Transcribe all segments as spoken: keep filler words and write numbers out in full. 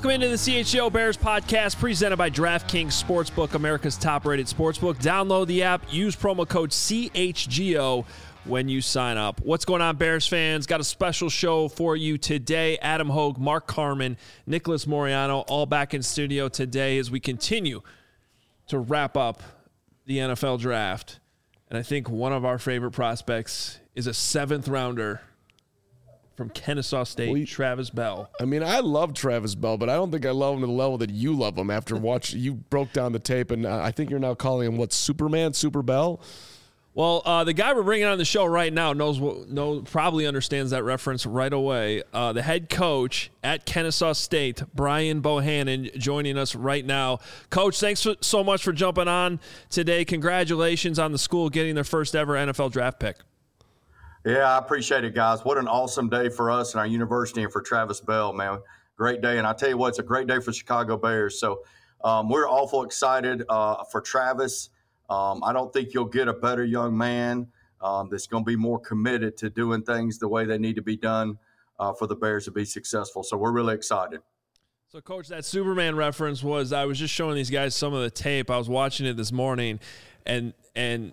Welcome into the C H G O Bears podcast presented by DraftKings Sportsbook, America's top-rated sportsbook. Download the app, use promo code C H G O when you sign up. What's going on, Bears fans? Got a special show for you today. Adam Hogue, Mark Carman, Nicholas Moriano, all back in studio today as we continue to wrap up the N F L draft. And I think one of our favorite prospects is a seventh rounder from Kennesaw State, well, you, Travis Bell. I mean, I love Travis Bell, but I don't think I love him to the level that you love him after watch. You broke down the tape, and I think you're now calling him, what, Superman, Super Bell? Well, uh, the guy we're bringing on the show right now knows what, knows, probably understands that reference right away. Uh, the head coach at Kennesaw State, Brian Bohannon, joining us right now. Coach, thanks for, so much for jumping on today. Congratulations on the school getting their first ever N F L draft pick. Yeah, I appreciate it, guys. What an awesome day for us and our university and for Travis Bell, man. Great day. And I tell you what, it's a great day for Chicago Bears. So um, we're awful excited uh, for Travis. Um, I don't think you'll get a better young man um, that's going to be more committed to doing things the way they need to be done uh, for the Bears to be successful. So we're really excited. So, Coach, that Superman reference was, I was just showing these guys some of the tape. I was watching it this morning, and and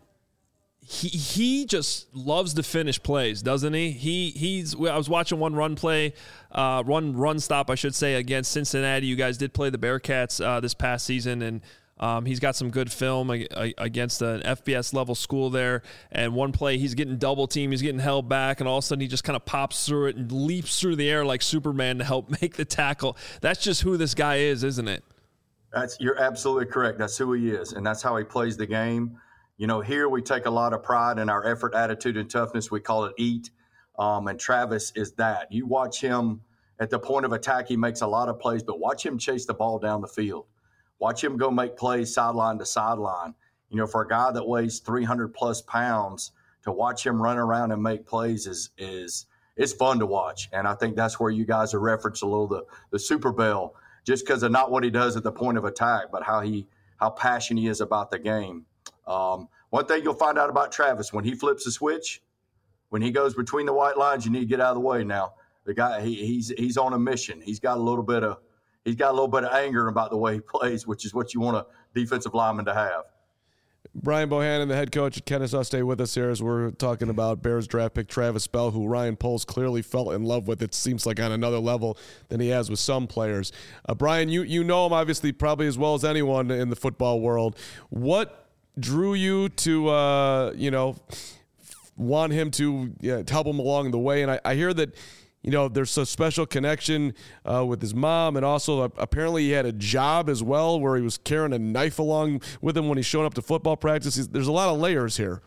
he he just loves to finish plays, doesn't he? He he's. I was watching one run play, uh, run run stop, I should say, against Cincinnati. You guys did play the Bearcats uh, this past season, and Um, he's got some good film against an F B S level school there. And one play, he's getting double teamed, he's getting held back, and all of a sudden he just kind of pops through it and leaps through the air like Superman to help make the tackle. That's just who this guy is, isn't it? That's you're absolutely correct. That's who he is, and that's how he plays the game. You know, here we take a lot of pride in our effort, attitude, and toughness. We call it EAT, um, and Travis is that. You watch him at the point of attack, he makes a lot of plays, but watch him chase the ball down the field. Watch him go make plays sideline to sideline. You know, for a guy that weighs three hundred plus pounds, to watch him run around and make plays is is it's fun to watch. And I think that's where you guys are referenced a little the the Super Bell, just because of not what he does at the point of attack, but how he how passionate he is about the game. Um, one thing you'll find out about Travis, when he flips a switch, when he goes between the white lines, you need to get out of the way now. The guy he, he's he's on a mission. He's got a little bit of He's got a little bit of anger about the way he plays, which is what you want a defensive lineman to have. Brian Bohannon, the head coach at Kennesaw State, with us here as we're talking about Bears draft pick Travis Bell, who Ryan Poles clearly fell in love with. It seems like on another level than he has with some players. Uh, Brian, you you know him obviously probably as well as anyone in the football world. What drew you to, uh, you know, want him to yeah, help him along the way? And I, I hear that, you know, there's a special connection uh, with his mom, and also uh, apparently he had a job as well where he was carrying a knife along with him when he's showing up to football practice. He's, there's a lot of layers here.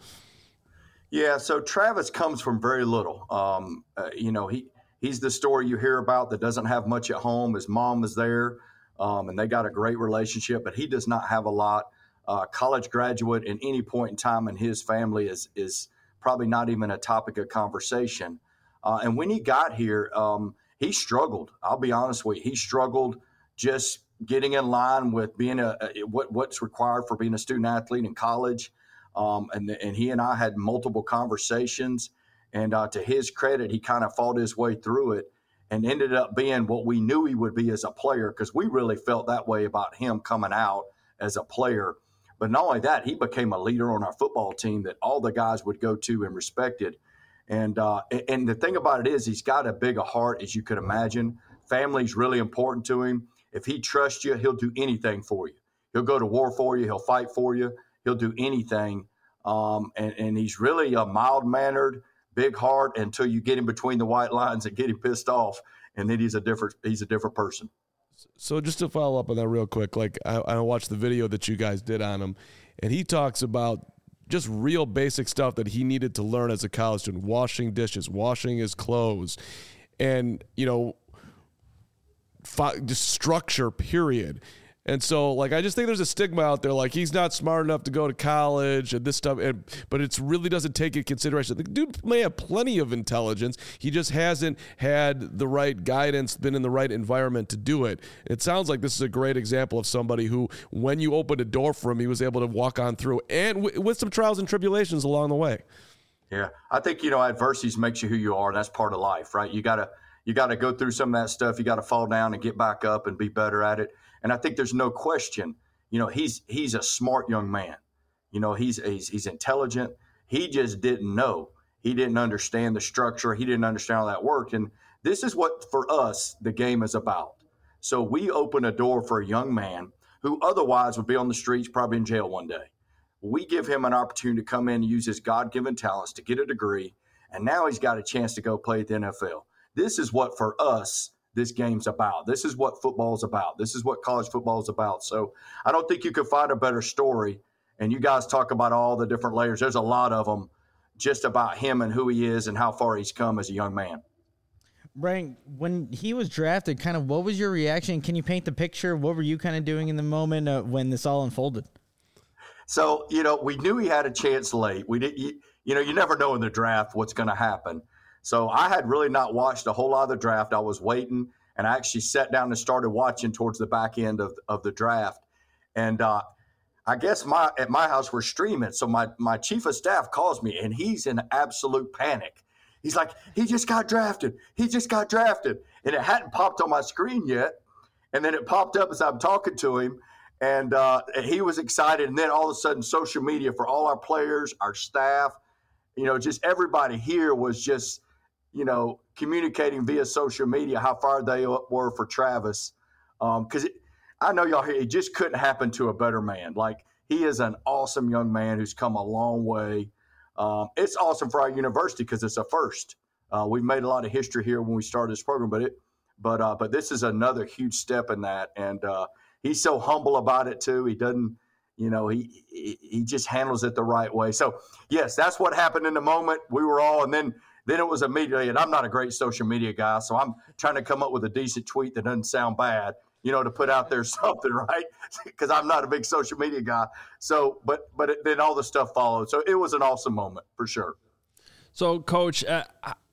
Yeah, so Travis comes from very little. Um, uh, you know, he he's the story you hear about that doesn't have much at home. His mom was there, um, and they got a great relationship, but he does not have a lot. Uh, college graduate at any point in time in his family is is probably not even a topic of conversation. Uh, and when he got here, um, he struggled. I'll be honest with you. He struggled just getting in line with being a, a what what's required for being a student athlete in college. Um, and and he and I had multiple conversations. And uh, to his credit, he kind of fought his way through it and ended up being what we knew he would be as a player, because we really felt that way about him coming out as a player. But not only that, he became a leader on our football team that all the guys would go to and respected. And uh, and the thing about it is he's got a big a heart, as you could imagine. Family's really important to him. If he trusts you, he'll do anything for you. He'll go to war for you. He'll fight for you. He'll do anything. Um, and, and he's really a mild-mannered, big heart until you get him between the white lines and get him pissed off, and then he's a different he's a different person. So just to follow up on that real quick, like I, I watched the video that you guys did on him, and he talks about just real basic stuff that he needed to learn as a college student, washing dishes, washing his clothes, and, you know, fi- just structure, period. And so, like, I just think there's a stigma out there, like, he's not smart enough to go to college and this stuff, and, but it really doesn't take into consideration. The dude may have plenty of intelligence. He just hasn't had the right guidance, been in the right environment to do it. It sounds like this is a great example of somebody who, when you opened a door for him, he was able to walk on through, and w- with some trials and tribulations along the way. Yeah, I think, you know, adversity makes you who you are, and that's part of life, right? You got to you got to go through some of that stuff. You got to fall down and get back up and be better at it. And I think there's no question, you know, he's he's a smart young man. You know, he's he's, he's intelligent. He just didn't know. He didn't understand the structure. He didn't understand how that worked. And this is what, for us, the game is about. So we open a door for a young man who otherwise would be on the streets, probably in jail one day. We give him an opportunity to come in and use his God-given talents to get a degree, and now he's got a chance to go play at the N F L. This is what, for us, this game's about. This is what football's about. This is what college football is about. So I don't think you could find a better story. And you guys talk about all the different layers. There's a lot of them just about him and who he is and how far he's come as a young man. Brian, when he was drafted, kind of what was your reaction? Can you paint the picture? What were you kind of doing in the moment uh, when this all unfolded? So, you know, we knew he had a chance late. We did, you, you know, you never know in the draft what's going to happen. So I had really not watched a whole lot of the draft. I was waiting, and I actually sat down and started watching towards the back end of, of the draft. And uh, I guess my at my house we're streaming. So my, my chief of staff calls me, and he's in absolute panic. He's like, he just got drafted. He just got drafted. And it hadn't popped on my screen yet. And then it popped up as I'm talking to him. And uh, he was excited. And then all of a sudden, social media for all our players, our staff, you know, just everybody here was just, you know, communicating via social media how far they were for Travis. Because um, I know y'all hear, it just couldn't happen to a better man. Like, he is an awesome young man who's come a long way. Um, it's awesome for our university because it's a first. Uh, we've made a lot of history here when we started this program, but it, but uh, but this is another huge step in that. And uh, he's so humble about it too. He doesn't, you know, he, he he just handles it the right way. So yes, that's what happened in the moment. We were all, and then then it was immediately. And I'm not a great social media guy, so I'm trying to come up with a decent tweet that doesn't sound bad, you know, to put out there something, right? Because I'm not a big social media guy. So, but but it, then all the stuff followed. So it was an awesome moment for sure. So, Coach, uh,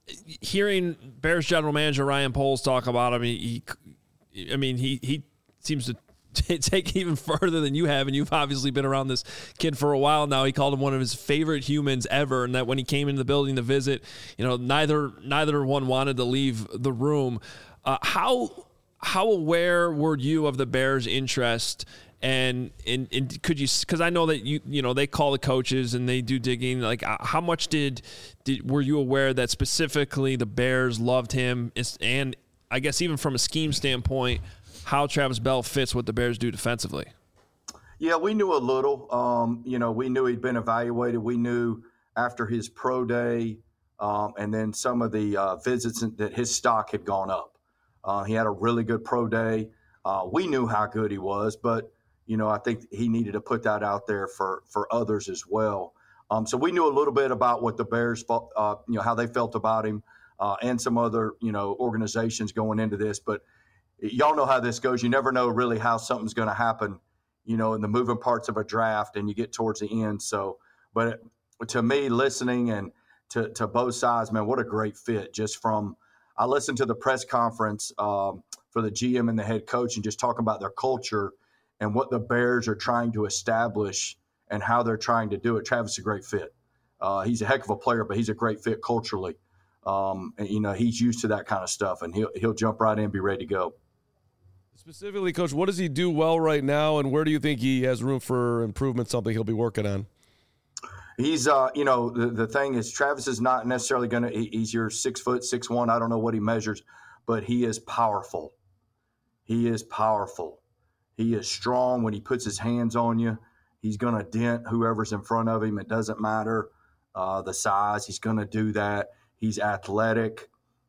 hearing Bears general manager Ryan Poles talk about him, he, he I mean, he he seems to take even further than you have, and you've obviously been around this kid for a while now. He called him one of his favorite humans ever, and that when he came into the building to visit, you know, neither neither one wanted to leave the room. Uh, how how aware were you of the Bears' interest? And, and and could you, because I know that you you know they call the coaches and they do digging. Like, how much did did were you aware that specifically the Bears loved him, and I guess even from a scheme standpoint, how Travis Bell fits what the Bears do defensively? Yeah, we knew a little. Um, you know, we knew he'd been evaluated. We knew after his pro day, um, and then some of the uh, visits that his stock had gone up. Uh, he had a really good pro day. Uh, we knew how good he was, but you know, I think he needed to put that out there for, for others as well. Um, so we knew a little bit about what the Bears, uh, you know, how they felt about him, uh, and some other, you know, organizations going into this. But y'all know how this goes. You never know really how something's going to happen, you know, in the moving parts of a draft, and you get towards the end. So, but to me, listening and to, to both sides, man, what a great fit. Just from, I listened to the press conference um, for the G M and the head coach, and just talking about their culture and what the Bears are trying to establish and how they're trying to do it. Travis is a great fit. Uh, he's a heck of a player, but he's a great fit culturally. Um, and, you know, he's used to that kind of stuff, and he'll he'll jump right in and be ready to go. Specifically, Coach, what does he do well right now, and where do you think he has room for improvement, something he'll be working on? He's, uh, you know, the, the thing is Travis is not necessarily going to he, – he's your six foot, six one. I don't know what he measures, but he is powerful. He is powerful. He is strong. When he puts his hands on you, he's going to dent whoever's in front of him. It doesn't matter uh, the size. He's going to do that. He's athletic,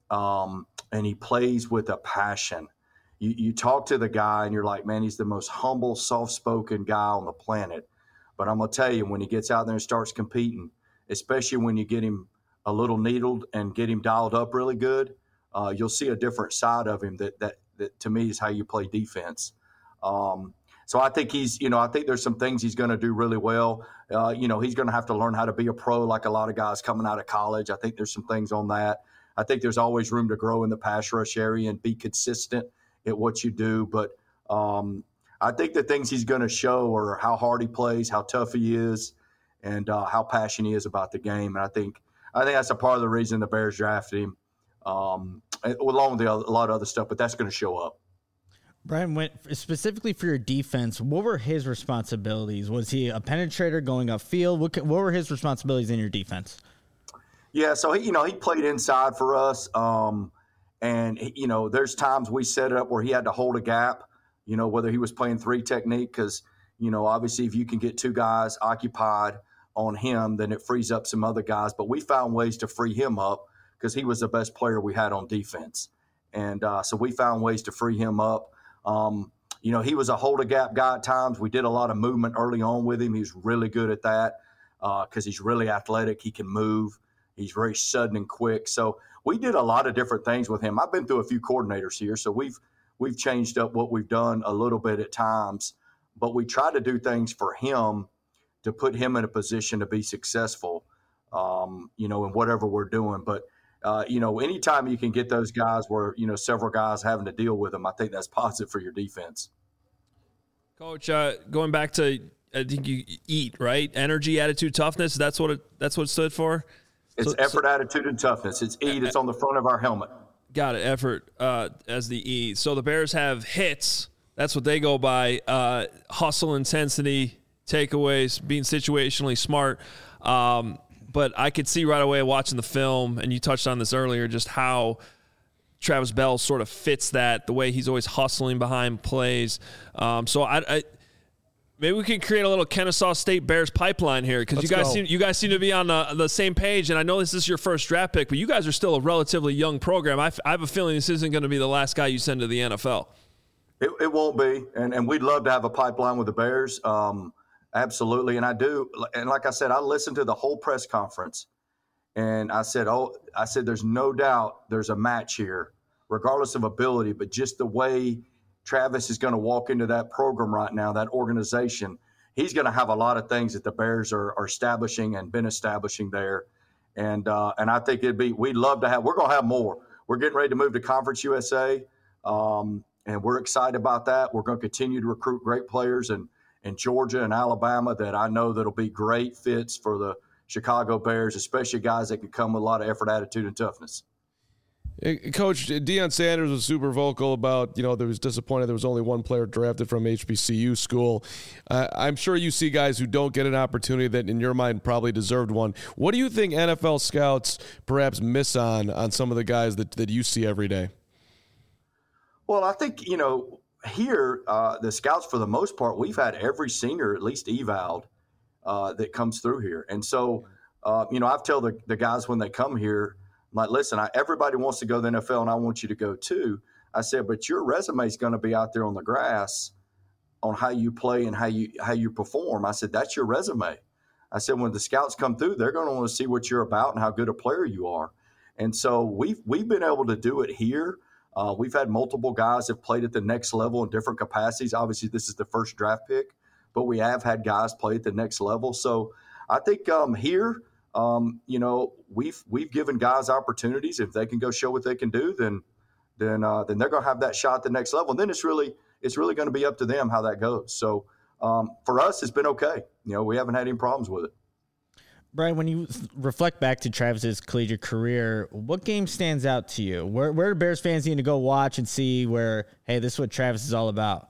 um, and he plays with a passion. You, you talk to the guy, and you're like, man, he's the most humble, soft-spoken guy on the planet. But I'm going to tell you, when he gets out there and starts competing, especially when you get him a little needled and get him dialed up really good, uh, you'll see a different side of him that, that, that to me is how you play defense. Um, so I think he's, you know, I think there's some things he's going to do really well. Uh, you know, he's going to have to learn how to be a pro like a lot of guys coming out of college. I think there's some things on that. I think there's always room to grow in the pass rush area and be consistent at what you do. But um, I think the things he's going to show are how hard he plays, how tough he is, and uh, how passionate he is about the game. And I think, I think that's a part of the reason the Bears drafted him. Um, along with the, a lot of other stuff, but that's going to show up. Brian, went specifically for your defense, what were his responsibilities? Was he a penetrator going upfield? What, what were his responsibilities in your defense? Yeah, so he, you know, he played inside for us, um, and he, you know, there's times we set it up where he had to hold a gap. You know, whether he was playing three technique, because you know, obviously, if you can get two guys occupied on him, then it frees up some other guys. But we found ways to free him up because he was the best player we had on defense, and uh, so we found ways to free him up. Um, you know, he was a hold a gap guy at times. We did a lot of movement early on with him. He was really good at that because uh, he's really athletic. He can move. He's very sudden and quick. So we did a lot of different things with him. I've been through a few coordinators here, so we've we've changed up what we've done a little bit at times. But we try to do things for him to put him in a position to be successful, um, you know, in whatever we're doing. But Uh, you know, anytime you can get those guys where, you know, several guys having to deal with them, I think that's positive for your defense. Coach, uh, going back to, I think you eat, right? Energy, attitude, toughness. That's what it, that's what it stood for? It's so, effort, so, attitude, and toughness. It's eat. It's on the front of our helmet. Got it. Effort uh, as the E. So the Bears have hits. That's what they go by. Uh, hustle, intensity, takeaways, being situationally smart. Um, But I could see right away watching the film, and you touched on this earlier, just how Travis Bell sort of fits that, the way he's always hustling behind plays. Um, so I, I maybe we can create a little Kennesaw State Bears pipeline here because you guys go. seem you guys seem to be on the, the same page. And I know this is your first draft pick, but you guys are still a relatively young program. I, I have a feeling this isn't going to be the last guy you send to the N F L. It, it won't be, and and we'd love to have a pipeline with the Bears. Um, Absolutely. And I do. And like I said, I listened to the whole press conference and I said, oh, I said, there's no doubt there's a match here, regardless of ability, but just the way Travis is going to walk into that program right now, that organization, he's going to have a lot of things that the Bears are, are establishing and been establishing there. And, uh, and I think it'd be, we'd love to have, we're going to have more. We're getting ready to move to Conference U S A. Um, and we're excited about that. We're going to continue to recruit great players and, in Georgia and Alabama that I know that'll be great fits for the Chicago Bears, especially guys that can come with a lot of effort, attitude, and toughness. Coach, Deion Sanders was super vocal about, you know, there was disappointed there was only one player drafted from H B C U school. Uh, I'm sure you see guys who don't get an opportunity that in your mind probably deserved one. What do you think N F L scouts perhaps miss on on some of the guys that, that you see every day? Well, I think, you know, here, uh, the scouts, for the most part, we've had every senior at least evaled uh, that comes through here. And so, uh, you know, I've tell the, the guys when they come here, I'm like, listen, I, everybody wants to go to the N F L, and I want you to go too. I said, but your resume is going to be out there on the grass on how you play and how you how you perform. I said, that's your resume. I said, when the scouts come through, they're going to want to see what you're about and how good a player you are. And so we've we've been able to do it here. Uh, we've had multiple guys that played at the next level in different capacities. Obviously, this is the first draft pick, but we have had guys play at the next level. So I think um, here, um, you know, we've we've given guys opportunities. If they can go show what they can do, then then uh, then they're going to have that shot at the next level. And then it's really it's really going to be up to them how that goes. So um, for us, it's been okay. You know, we haven't had any problems with it. Brian, when you reflect back to Travis's collegiate career, what game stands out to you? Where where do Bears fans need to go watch and see where, hey, this is what Travis is all about?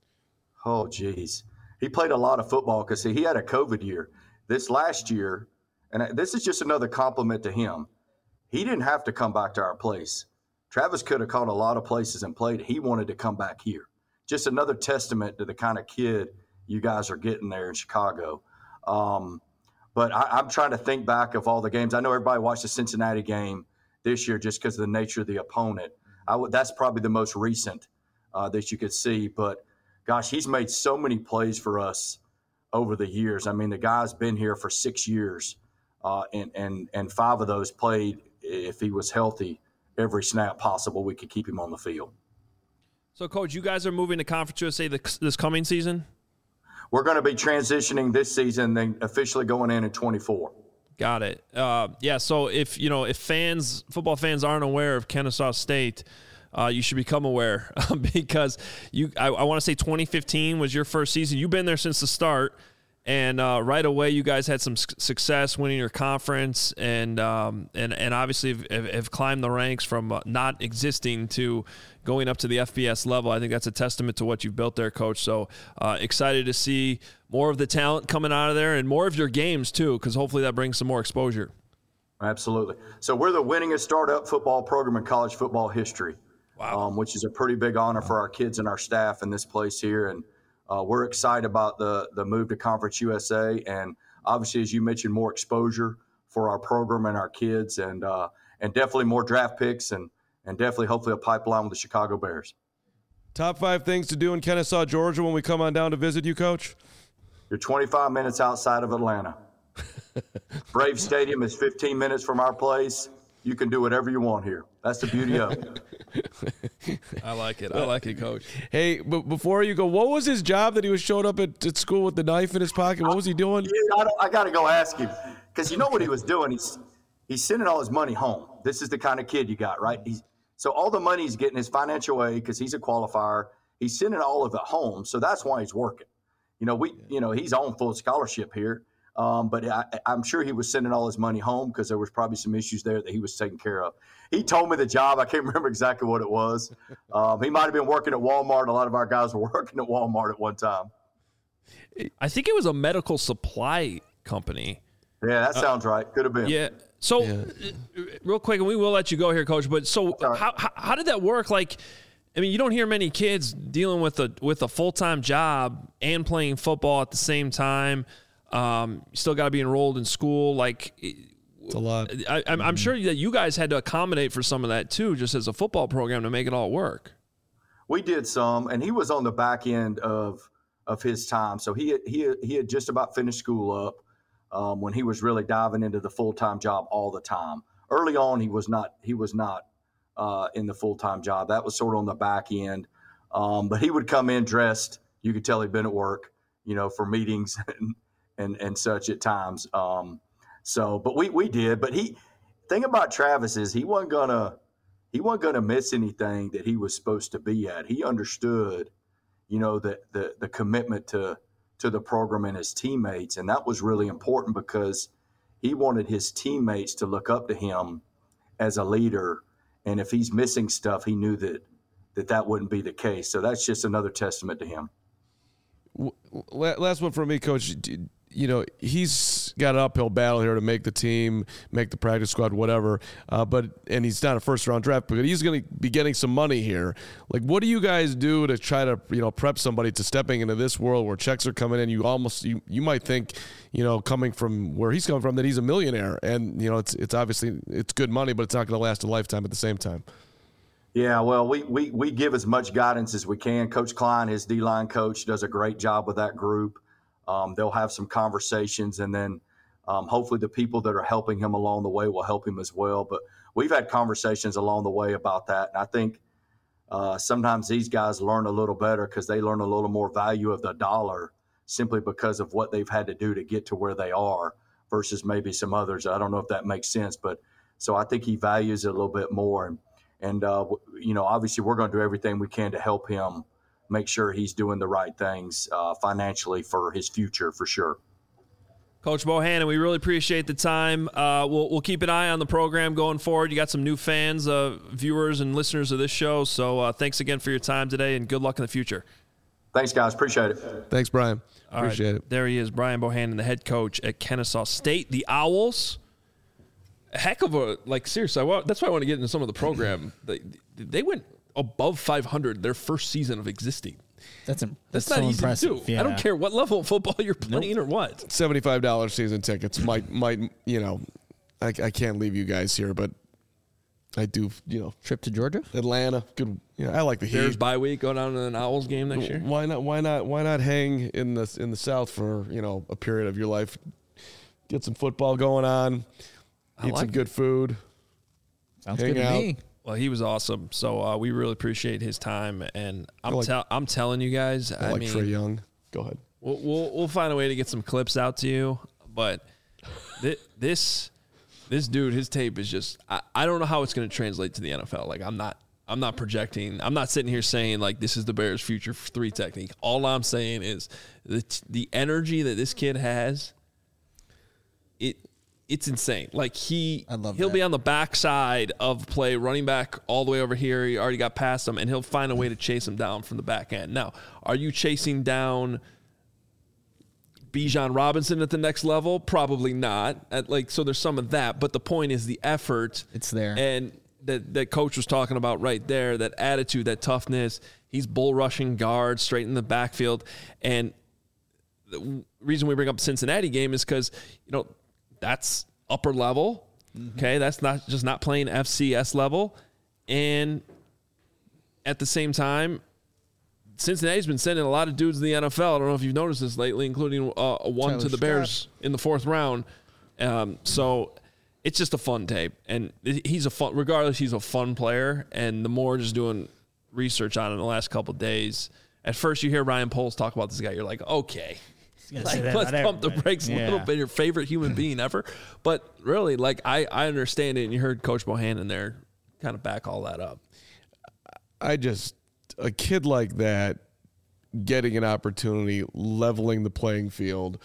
Oh, geez. He played a lot of football because he had a COVID year. This last year, and this is just another compliment to him, he didn't have to come back to our place. Travis could have caught a lot of places and played. He wanted to come back here. Just another testament to the kind of kid you guys are getting there in Chicago. Um, But I, I'm trying to think back of all the games. I know everybody watched the Cincinnati game this year just because of the nature of the opponent. I w- that's probably the most recent uh, that you could see. But, gosh, he's made so many plays for us over the years. I mean, the guy's been here for six years, uh, and, and, and five of those played, if he was healthy, every snap possible we could keep him on the field. So, Coach, you guys are moving to Conference U S A this, this coming season? We're going to be transitioning this season, then officially going in in twenty-four. Got it. Uh, yeah. So if you know if fans, football fans, aren't aware of Kennesaw State, uh, you should become aware because you. I, I want to say twenty fifteen was your first season. You've been there since the start, And uh, right away, you guys had some success winning your conference, and um, and and obviously have, have climbed the ranks from uh, not existing to going up to the F B S level. I think that's a testament to what you've built there, Coach. So uh, excited to see more of the talent coming out of there and more of your games too, because hopefully that brings some more exposure. Absolutely. So we're the winningest startup football program in college football history. Wow. Um, which is a pretty big honor for our kids and our staff in this place here, and. Uh, we're excited about the the move to Conference U S A, and obviously, as you mentioned, more exposure for our program and our kids, and uh, and definitely more draft picks, and and definitely, hopefully, a pipeline with the Chicago Bears. Top five things to do in Kennesaw, Georgia, when we come on down to visit you, Coach? You're twenty-five minutes outside of Atlanta. Brave Stadium is fifteen minutes from our place. You can do whatever you want here. That's the beauty of it. I like it. I like it, Coach. Hey, but before you go, what was his job that he was showing up at, at school with the knife in his pocket? What was he doing? I, I, I got to go ask him, because you know what he was doing? He's he's sending all his money home. This is the kind of kid you got, right? He's, so all the money he's getting, his financial aid, because he's a qualifier, he's sending all of it home. So that's why he's working. You know, we, you know, he's on full scholarship here. Um, but I, I'm sure he was sending all his money home because there was probably some issues there that he was taking care of. He told me the job. I can't remember exactly what it was. Um, he might have been working at Walmart. A lot of our guys were working at Walmart at one time. I think it was a medical supply company. Yeah, that sounds uh, right. Could have been. Yeah. So yeah. Uh, real quick, and we will let you go here, Coach. But so right. how, how how did that work? Like, I mean, you don't hear many kids dealing with a with a full-time job and playing football at the same time. Um, you still got to be enrolled in school. Like, it's a lot. I, I'm, I'm sure that you guys had to accommodate for some of that too, just as a football program, to make it all work. We did some, and he was on the back end of of his time. So he he he had just about finished school up um, when he was really diving into the full time job all the time. Early on, he was not he was not uh, in the full time job. That was sort of on the back end. Um, but he would come in dressed. You could tell he'd been at work, you know, for meetings and. and and such at times. Um, so, but we, we did, but he, thing about Travis is he wasn't gonna, he wasn't gonna miss anything that he was supposed to be at. He understood, you know, the, the, the commitment to, to the program and his teammates. And that was really important because he wanted his teammates to look up to him as a leader. And if he's missing stuff, he knew that, that that wouldn't be the case. So that's just another testament to him. Last one for me, Coach. You know, he's got an uphill battle here to make the team, make the practice squad, whatever. Uh, but and he's not a first-round draft pick, but he's going to be getting some money here. Like, what do you guys do to try to, you know, prep somebody to stepping into this world where checks are coming in? You almost you, you might think, you know, coming from where he's coming from, that he's a millionaire, and you know, it's it's obviously it's good money, but it's not going to last a lifetime at the same time. Yeah, well, we, we we give as much guidance as we can. Coach Klein, his D-line coach, does a great job with that group. Um, they'll have some conversations, and then um, hopefully the people that are helping him along the way will help him as well. But we've had conversations along the way about that, and I think uh, sometimes these guys learn a little better because they learn a little more value of the dollar simply because of what they've had to do to get to where they are versus maybe some others. I don't know if that makes sense, but so I think he values it a little bit more. And, and uh, you know, obviously we're going to do everything we can to help him make sure he's doing the right things uh, financially for his future, for sure. Coach Bohannon, we really appreciate the time. Uh, we'll we'll keep an eye on the program going forward. You got some new fans, uh, viewers, and listeners of this show. So uh, thanks again for your time today, and good luck in the future. Thanks, guys. Appreciate it. Thanks, Brian. All appreciate right. it. There he is, Brian Bohannon, the head coach at Kennesaw State. The Owls, a heck of a, like, seriously, I want, that's why I want to get into some of the program. they, they went above five hundred their first season of existing. That's, a, that's, that's not so easy impressive. to do. Yeah. I don't care what level of football you're playing nope. or what. seventy-five dollars season tickets might, might you know, I, I can't leave you guys here, but I do, you know. Trip to Georgia? Atlanta. Good. Yeah, I like the Heat. Bears bye week, go down to an Owls game next year. Why not, why not, why not hang in the, in the South for, you know, a period of your life? Get some football going on. I Eat like some it. good food. Sounds hang good to out. me. Well, he was awesome. So uh, we really appreciate his time, and I'm like, tell I'm telling you guys. I I like mean, Trae Young. Go ahead. We'll, we'll we'll find a way to get some clips out to you, but th- this this dude, his tape is just. I, I don't know how it's going to translate to the N F L. Like I'm not I'm not projecting. I'm not sitting here saying like this is the Bears' future three technique. All I'm saying is the the energy that this kid has. It it's insane. Like he, I love he'll that. be on the backside of play, running back all the way over here. He already got past him, and he'll find a way to chase him down from the back end. Now, are you chasing down Bijan Robinson at the next level? Probably not. At like so, there's some of that, but the point is the effort. It's there, and that that coach was talking about right there. That attitude, that toughness. He's bull rushing guards straight in the backfield, and the reason we bring up the Cincinnati game is because you know. That's upper level, okay? That's not just not playing F C S level. And at the same time, Cincinnati's been sending a lot of dudes to the N F L. I don't know if you've noticed this lately, including uh, a one Tyler to the Scott. Bears in the fourth round. Um, so it's just a fun tape. And he's a fun, regardless, he's a fun player. And the more just doing research on it in the last couple of days, at first you hear Ryan Poles talk about this guy, you're like, okay. Like, let's pump the brakes yeah. a little bit. Your favorite human being ever, but really, like I, I understand it. And you heard Coach Bohannon there kind of back all that up. I just a kid like that getting an opportunity, leveling the playing field.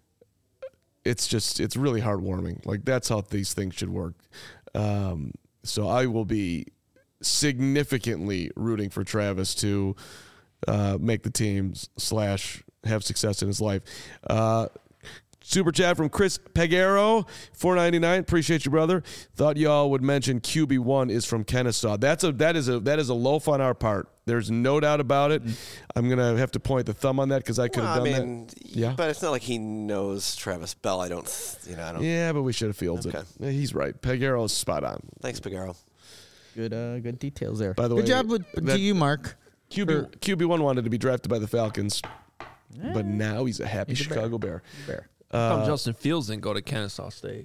It's just it's really heartwarming. Like that's how these things should work. Um, so I will be significantly rooting for Travis to uh, make the team slash. have success in his life. Uh, super chat from Chris Pegaro, four ninety-nine. Appreciate you, brother. Thought y'all would mention Q B one is from Kennesaw. That's a that is a that is a loaf on our part. There's no doubt about it. I'm gonna have to point the thumb on that because I could have well, done I mean, that. Yeah, but it's not like he knows Travis Bell. I don't, you know, I don't. Yeah, but we should have fielded Okay. it. He's right. Pegaro's spot on. Thanks, Pagaro. Good, uh, good details there. By the good way, job with, that- to you, Mark. Q B Q B one wanted to be drafted by the Falcons, Yeah. but now he's a happy He's a Chicago Bear. Bear. How come Uh, Justin Fields didn't go to Kennesaw State?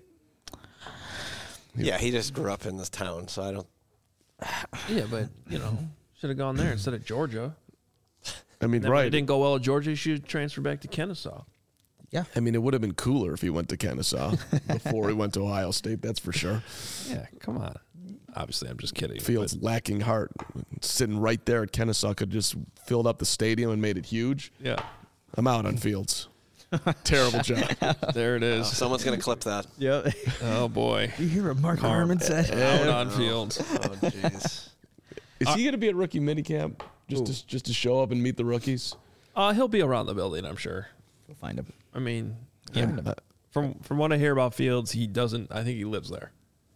Yeah, he just grew up in this town, so I don't. Yeah, but you know, should have gone there instead of Georgia. I mean, Then when right? it didn't go well at Georgia, he should transfer back to Kennesaw. I mean, it would have been cooler if he went to Kennesaw before he went to Ohio State. That's for sure. Yeah, come on. Obviously, I'm just kidding. Fields lacking heart, sitting right there at Kennesaw, could just filled up the stadium and made it huge. but- yeah, I'm out on Fields. Terrible job. there it Oh, is. someone's gonna clip that. Yep. Oh boy, You hear what Mark Harmon said? out on Fields. Oh, jeez. Is he going to be at rookie minicamp just to, just to show up and meet the rookies? Uh, he'll be around the building, I'm sure. We'll find him. I mean, yeah. From from what I hear about Fields, he doesn't. I think he lives there.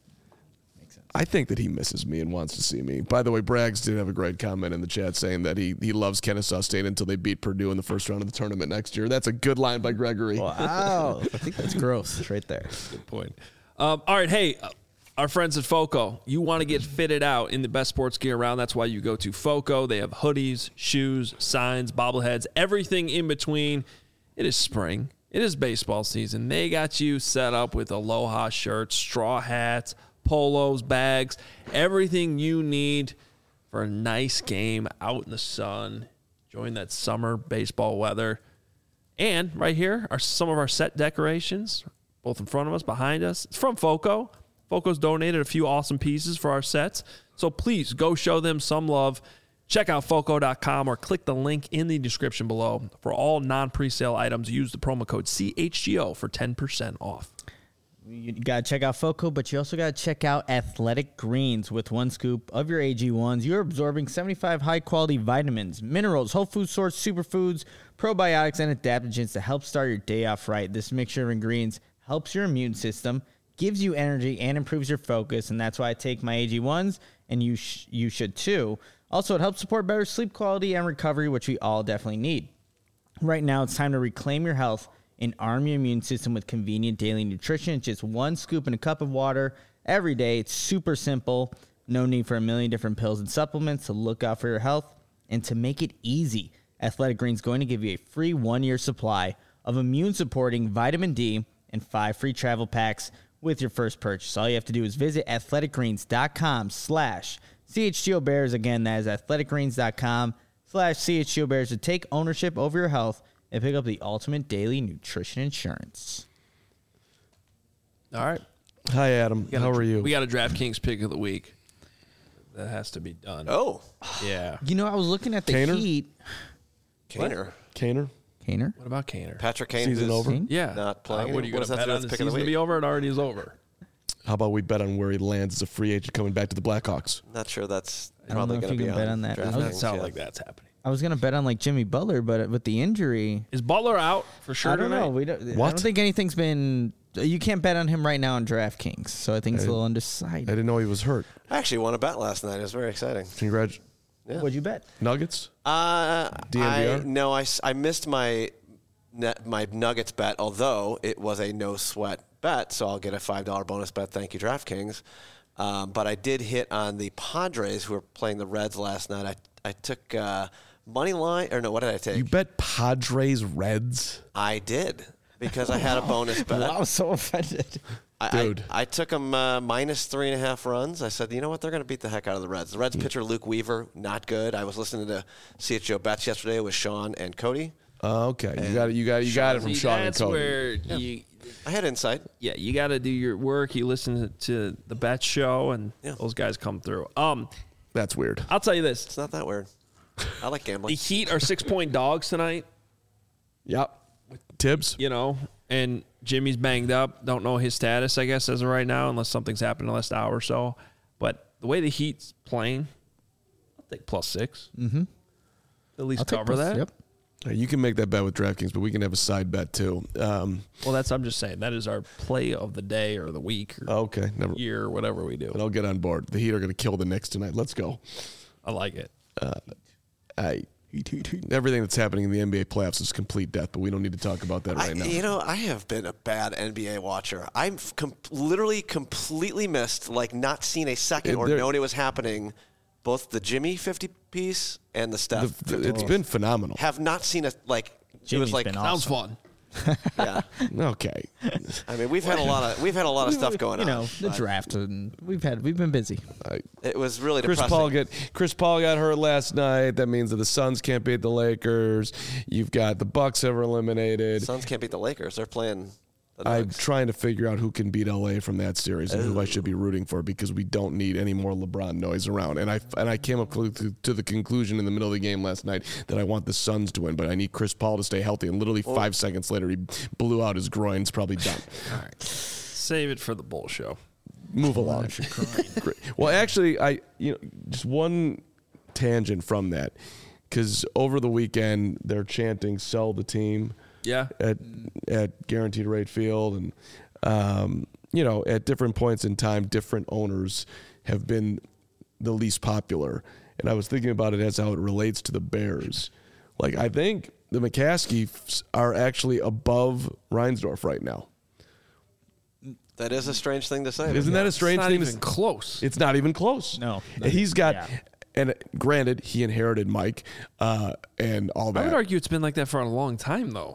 Makes sense. I think that he misses me and wants to see me. By the way, Braggs did have a great comment in the chat saying that he, he loves Kennesaw State until they beat Purdue in the first round of the tournament next year. That's a good line by Gregory. Wow. I think that's gross right there. Good point. Um, all right, hey, uh, our friends at FOCO, you want to get fitted out in the best sports gear around. That's why you go to FOCO. They have hoodies, shoes, signs, bobbleheads, everything in between. It is spring. It is baseball season. They got you set up with Aloha shirts, straw hats, polos, bags, everything you need for a nice game out in the sun, enjoying that summer baseball weather. And right here are some of our set decorations, both in front of us, behind us. It's from FOCO. FOCO's donated a few awesome pieces for our sets, so please go show them some love. Check out foco dot com or click the link in the description below. For all non-presale items, use the promo code C H G O for ten percent off. You got to check out FOCO, but you also got to check out Athletic Greens. With one scoop of your A G ones, you're absorbing seventy-five high-quality vitamins, minerals, whole food source superfoods, probiotics, and adaptogens to help start your day off right. This mixture of ingredients helps your immune system, gives you energy, and improves your focus, and that's why I take my A G ones, and you sh- you should too. Also, it helps support better sleep quality and recovery, which we all definitely need. Right now, it's time to reclaim your health and arm your immune system with convenient daily nutrition. It's just one scoop in a cup of water every day. It's super simple. No need for a million different pills and supplements to look out for your health. And to make it easy, Athletic Greens is going to give you a free one-year supply of immune-supporting vitamin D and five free travel packs with your first purchase. All you have to do is visit athletic greens dot com slash C H G O Bears. Again, that is athletic greens dot com slash C H G O Bears to take ownership over your health and pick up the ultimate daily nutrition insurance. All right. Hi, Adam. We got How a- are you? We got a DraftKings pick of the week. that has to be done. Oh, Yeah. You know, I was looking at the Kaner? Heat. Kaner. Kaner, Kaner? What about Kaner? Patrick Kane. season who's over. Kane? Yeah. Not playing Uh, what are you anymore. going What to does that bet do on with the pick of the season to week? be over? It already is over. How about we bet on where he lands as a free agent coming back to the Blackhawks? Not sure that's I don't probably know if going to you be can bet on that. DraftKings, I Doesn't was- sound yeah. like that's happening. I was going to bet on like Jimmy Butler, but with the injury, Is Butler out for sure I don't tonight? know. We don't, I What? don't think anything's been. You can't bet on him right now on DraftKings, so I think it's a little I undecided. didn't know he was hurt. I actually won a bet last night. It was very exciting. Congrats, Yeah. What'd you bet? Nuggets. Uh, D N V R? I, no, I, s- I missed my net, my Nuggets bet, although it was a no sweat bet, so I'll get a five dollar bonus bet. Thank you, DraftKings. Um, but I did hit on the Padres, who were playing the Reds last night. I I took uh, money line, or no, what did I take? You bet Padres Reds. I did because I had a bonus bet. I was so offended. I, Dude. I, I took them uh, minus three and a half runs. I said, you know what? They're going to beat the heck out of the Reds. The Reds pitcher, Luke Weaver, not good. I was listening to C H O Bets yesterday with Sean and Cody. Uh, okay, you got it. You got it. You got it from See, Sean and that's Cody. where you, I had insight. yeah, you got to do your work. You listen to the Bet Show, and Yeah. those guys come through. Um, That's weird. I'll tell you this: It's not that weird. I like the gambling. Heat are six point dogs tonight. Yep. Tibbs. You know, and Jimmy's banged up. Don't know his status, I guess, as of right now, unless something's happened in the last hour or so. But the way the Heat's playing, I'll take plus six. Mm-hmm. At least I'll take cover plus- that. Yep. Uh, You can make that bet with DraftKings, but we can have a side bet too. Um, Well, that's I'm just saying that is our play of the day or the week or okay, never. year or whatever we do. But I'll get on board. The Heat are going to kill the Knicks tonight. Let's go. I like it. I, everything that's happening in the N B A playoffs is complete death, but we don't need to talk about that I, right now. you know, I have been a bad N B A watcher. I've com- literally completely missed, like, not seen a second It- or there- known it was happening. Both the Jimmy fifty piece and the Steph. The- the- fifty it's piece. been phenomenal. Have not seen a like. it Jimmy's was like been Sounds awesome. fun. yeah. Okay. I mean, we've had a lot of we've had a lot of stuff going you know, on. the but draft, and we've had we've been busy. It was really Chris depressing. Paul get Chris Paul got hurt last night. That means that the Suns can't beat the Lakers. You've got the Bucks have eliminated. Suns can't beat the Lakers. They're playing. The I'm Nuggets. trying to figure out who can beat L A from that series and who I should be rooting for because we don't need any more LeBron noise around. And I and I came up to, to the conclusion in the middle of the game last night that I want the Suns to win, but I need Chris Paul to stay healthy. And literally five seconds later, he blew out his groin. It's probably done. All right. Save it for the bull show. Move along. Great. Well, actually, I you know just one tangent from that because over the weekend they're chanting "Sell the team." Yeah. at at Guaranteed Rate Field, and um, you know, at different points in time, different owners have been the least popular. And I was thinking about it as how it relates to the Bears. Like, I think the McCaskies are actually above Reinsdorf right now. That is a strange thing to say. Isn't that a strange it's not thing? even to, close. It's not even close. No. And he's got. Yeah. And granted, he inherited Mike uh, and all I would that. argue it's been like that for a long time, though.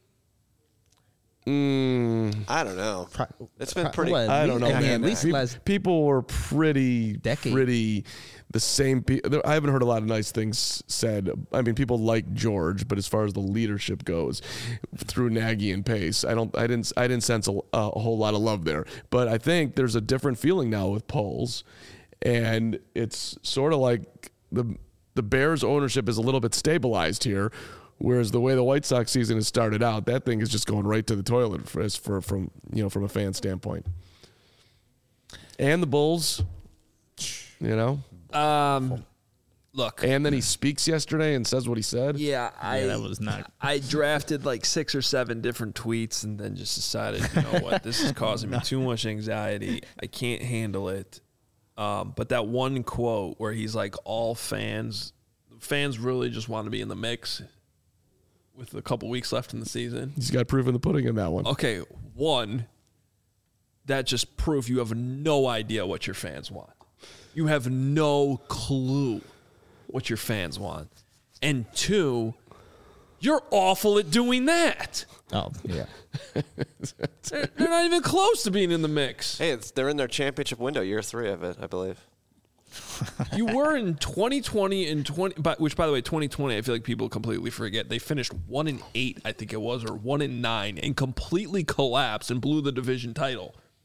Mm, I don't know. It's been Pro- pretty. what, I don't know, I mean, man. at least Pe- last people were pretty, decade. pretty the same. Pe- I haven't heard a lot of nice things said. I mean, people like George, but as far as the leadership goes, through Nagy and Pace, I don't, I didn't, I didn't sense a, a whole lot of love there. But I think there's a different feeling now with Poles, and it's sort of like the the Bears ownership is a little bit stabilized here. Whereas the way the White Sox season has started out, that thing is just going right to the toilet for, as for from you know from a fan standpoint. And the Bulls, you know. Um, look. And then he speaks yesterday and says what he said. Yeah, I that was not- I drafted like six or seven different tweets and then just decided, you know what, this is causing me too much anxiety. I can't handle it. Um, but that one quote where he's like, all fans, fans really just want to be in the mix with a couple weeks left in the season. He's got proof in the pudding in that one. Okay, one, that just proof you have no idea what your fans want. You have no clue what your fans want. And two, you're awful at doing that. Oh, yeah. They're, they're not even close to being in the mix. Hey, it's, they're in their championship window, year three of it, I believe. You were in twenty twenty and twenty, but which by the way, twenty twenty, I feel like people completely forget. They finished one and eight, I think it was, or one and nine, and completely collapsed and blew the division title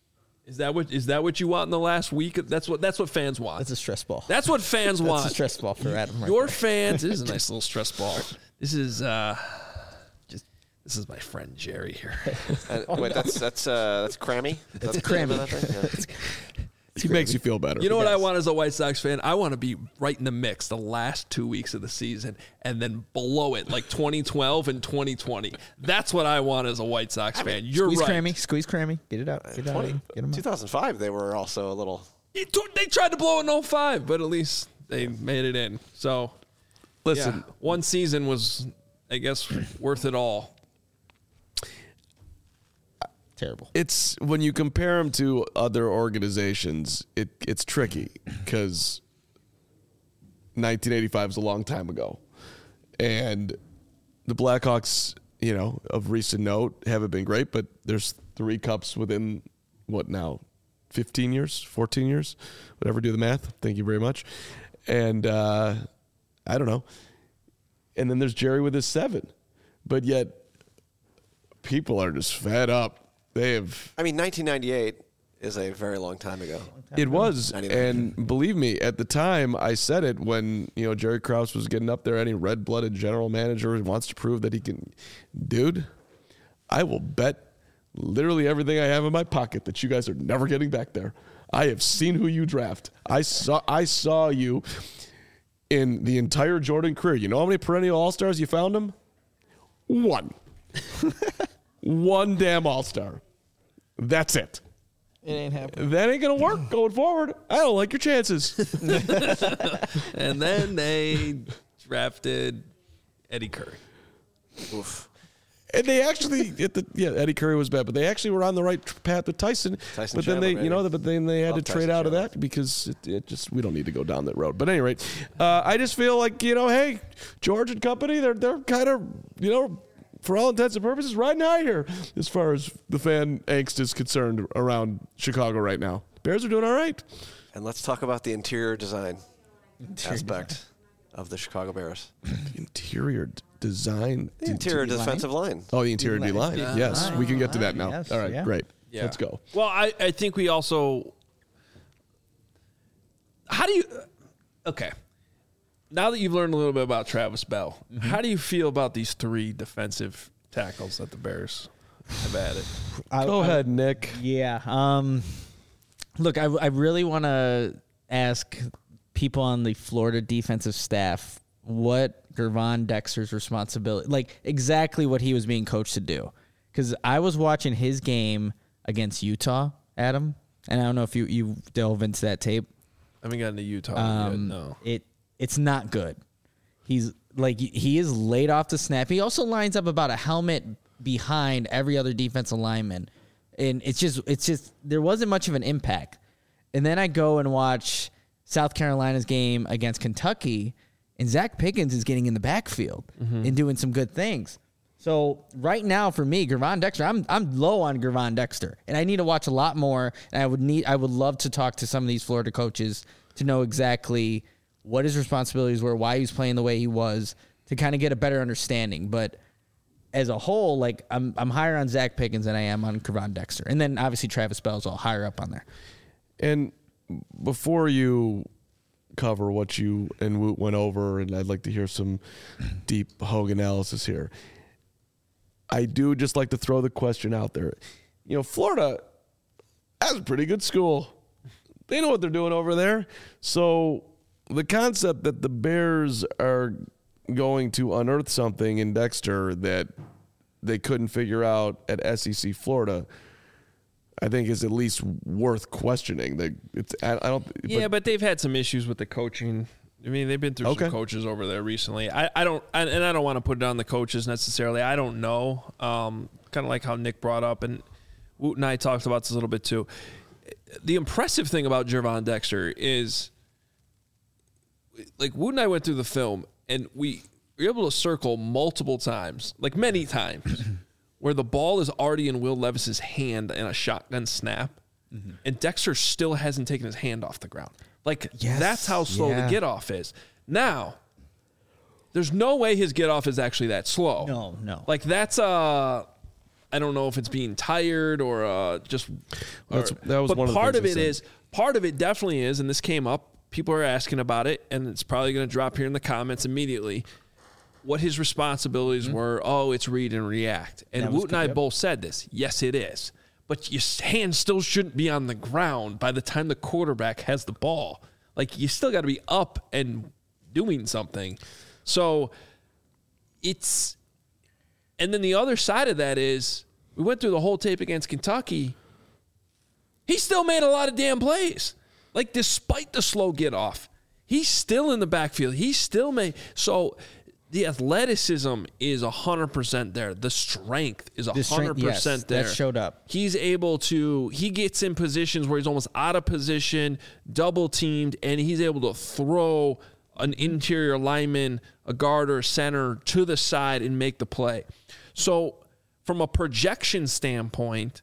Is that what is that what you want in the last week? That's what that's what fans want. That's a stress ball. That's what fans That's want. a stress ball for Adam. Right Your there. fans. This is a nice little stress ball. This is uh, just this is my friend Jerry here. Uh, wait, that's that's uh, that's Crammy. That's Crammy. He makes you feel better. You know what I want as a White Sox fan? I want to be right in the mix the last two weeks of the season and then below it, like twenty twelve and twenty twenty. That's what I want as a White Sox fan. You're Squeeze right. Crammy. Squeeze Crammy. Get it out. Get it out. twenty, Get 'em out. two thousand five, they were also a little. It took- They tried to blow it in oh five, but at least they made it in. So, Listen, yeah, one season was, I guess, worth it all. Terrible. it's when you compare them to other organizations, it it's tricky because nineteen eighty-five is a long time ago, and the Blackhawks, you know, of recent note, haven't been great. But there's three cups within what now, fifteen years, fourteen years, whatever. Do the math. Thank you very much. And uh, I don't know. And then there's Jerry with his seven, but yet people are just fed up. They have. I mean, nineteen ninety-eight is a very long time ago. It was, ninety-nine. and believe me, at the time I said it when you know Jerry Krause was getting up there. Any red-blooded general manager who wants to prove that he can, dude, I will bet literally everything I have in my pocket that you guys are never getting back there. I have seen who you draft. I saw, I saw you in the entire Jordan career. You know how many perennial All-Stars you found him? One. One damn All-Star. That's it. It ain't happening. That ain't going to work going forward. I don't like your chances. And then they drafted Eddie Curry. Oof. And they actually, at the, yeah, Eddie Curry was bad, but they actually were on the right path with Tyson. Tyson but then Chandler, they, you know, baby. but then they had Love to trade Tyson out of Chandler. that because it, it just, we don't need to go down that road. But at any rate, uh, I just feel like, you know, hey, George and company, they're, they're kind of, you know, for all intents and purposes, riding high here as far as the fan angst is concerned around Chicago right now. Bears are doing all right. And let's talk about the interior design aspect of the Chicago Bears. The interior d- design. The interior defensive line. Oh, the interior D line. D-line. Yes, D-line. we can get to that now. Yes, all right, yeah. great. Yeah. Let's go. Well, I, I think we also. How do you. Okay. Now that you've learned a little bit about Travis Bell, Mm-hmm. how do you feel about these three defensive tackles that the Bears have added? I- Go I- ahead, Nick. Yeah. Um, look, I, I really want to ask people on the Florida defensive staff what Gervon Dexter's responsibility, like exactly what he was being coached to do. Because I was watching his game against Utah, Adam, and I don't know if you, you delve into that tape. I haven't gotten to Utah Um, yet, no. It it's not good. He's like he is laid off the snap. He also lines up about a helmet behind every other defensive lineman, and it's just it's just there wasn't much of an impact. And then I go and watch South Carolina's game against Kentucky, and Zach Pickens is getting in the backfield and doing some good things. So right now for me, Gervon Dexter, I'm I'm low on Gervon Dexter, and I need to watch a lot more. And I would need I would love to talk to some of these Florida coaches to know exactly what his responsibilities were, why he was playing the way he was, to kind of get a better understanding. But as a whole, like I'm I'm higher on Zach Pickens than I am on Gervon Dexter, and then obviously Travis Bell's all higher up on there. And before you cover what you and Woot went over, and I'd like to hear some deep Hogue analysis here, I do just like to throw the question out there. You know, Florida has a pretty good school. They know what they're doing over there. So the concept that the Bears are going to unearth something in Dexter that they couldn't figure out at S E C Florida, I think is at least worth questioning. They, it's, I, I don't. Yeah, but, they've had some issues with the coaching. I mean, they've been through Okay. some coaches over there recently. I, I don't, I, and I don't want to put it on the coaches necessarily. I don't know. Um, kind of like how Nick brought up, and Woot and I talked about this a little bit too. The impressive thing about Gervon Dexter is, like Woot and I went through the film, and we were able to circle multiple times, like many times, where the ball is already in Will Levis's hand in a shotgun snap, mm-hmm. and Dexter still hasn't taken his hand off the ground. Like, Yes. that's how slow Yeah. the get off is. Now, there's no way his get off is actually that slow. No, no. Like, that's uh I don't know if it's being tired or uh, just. Or, That's, that was but one of the part of things it they is said. part of it definitely is, and this came up. People are asking about it, and it's probably going to drop here in the comments immediately. What his responsibilities mm-hmm. were. Oh, it's read and react. And That Woot was and I good. both said this. Yes, it is. But your hand still shouldn't be on the ground by the time the quarterback has the ball. Like, you still got to be up and doing something. So it's – and then the other side of that is we went through the whole tape against Kentucky. He still made a lot of damn plays. Like, despite the slow get off, he's still in the backfield. He still made – so – the athleticism is one hundred percent there. The strength is one hundred percent yes, there. that showed up. He's able to, he gets in positions where he's almost out of position, double teamed, and he's able to throw an interior lineman, a guard or a center to the side and make the play. So from a projection standpoint,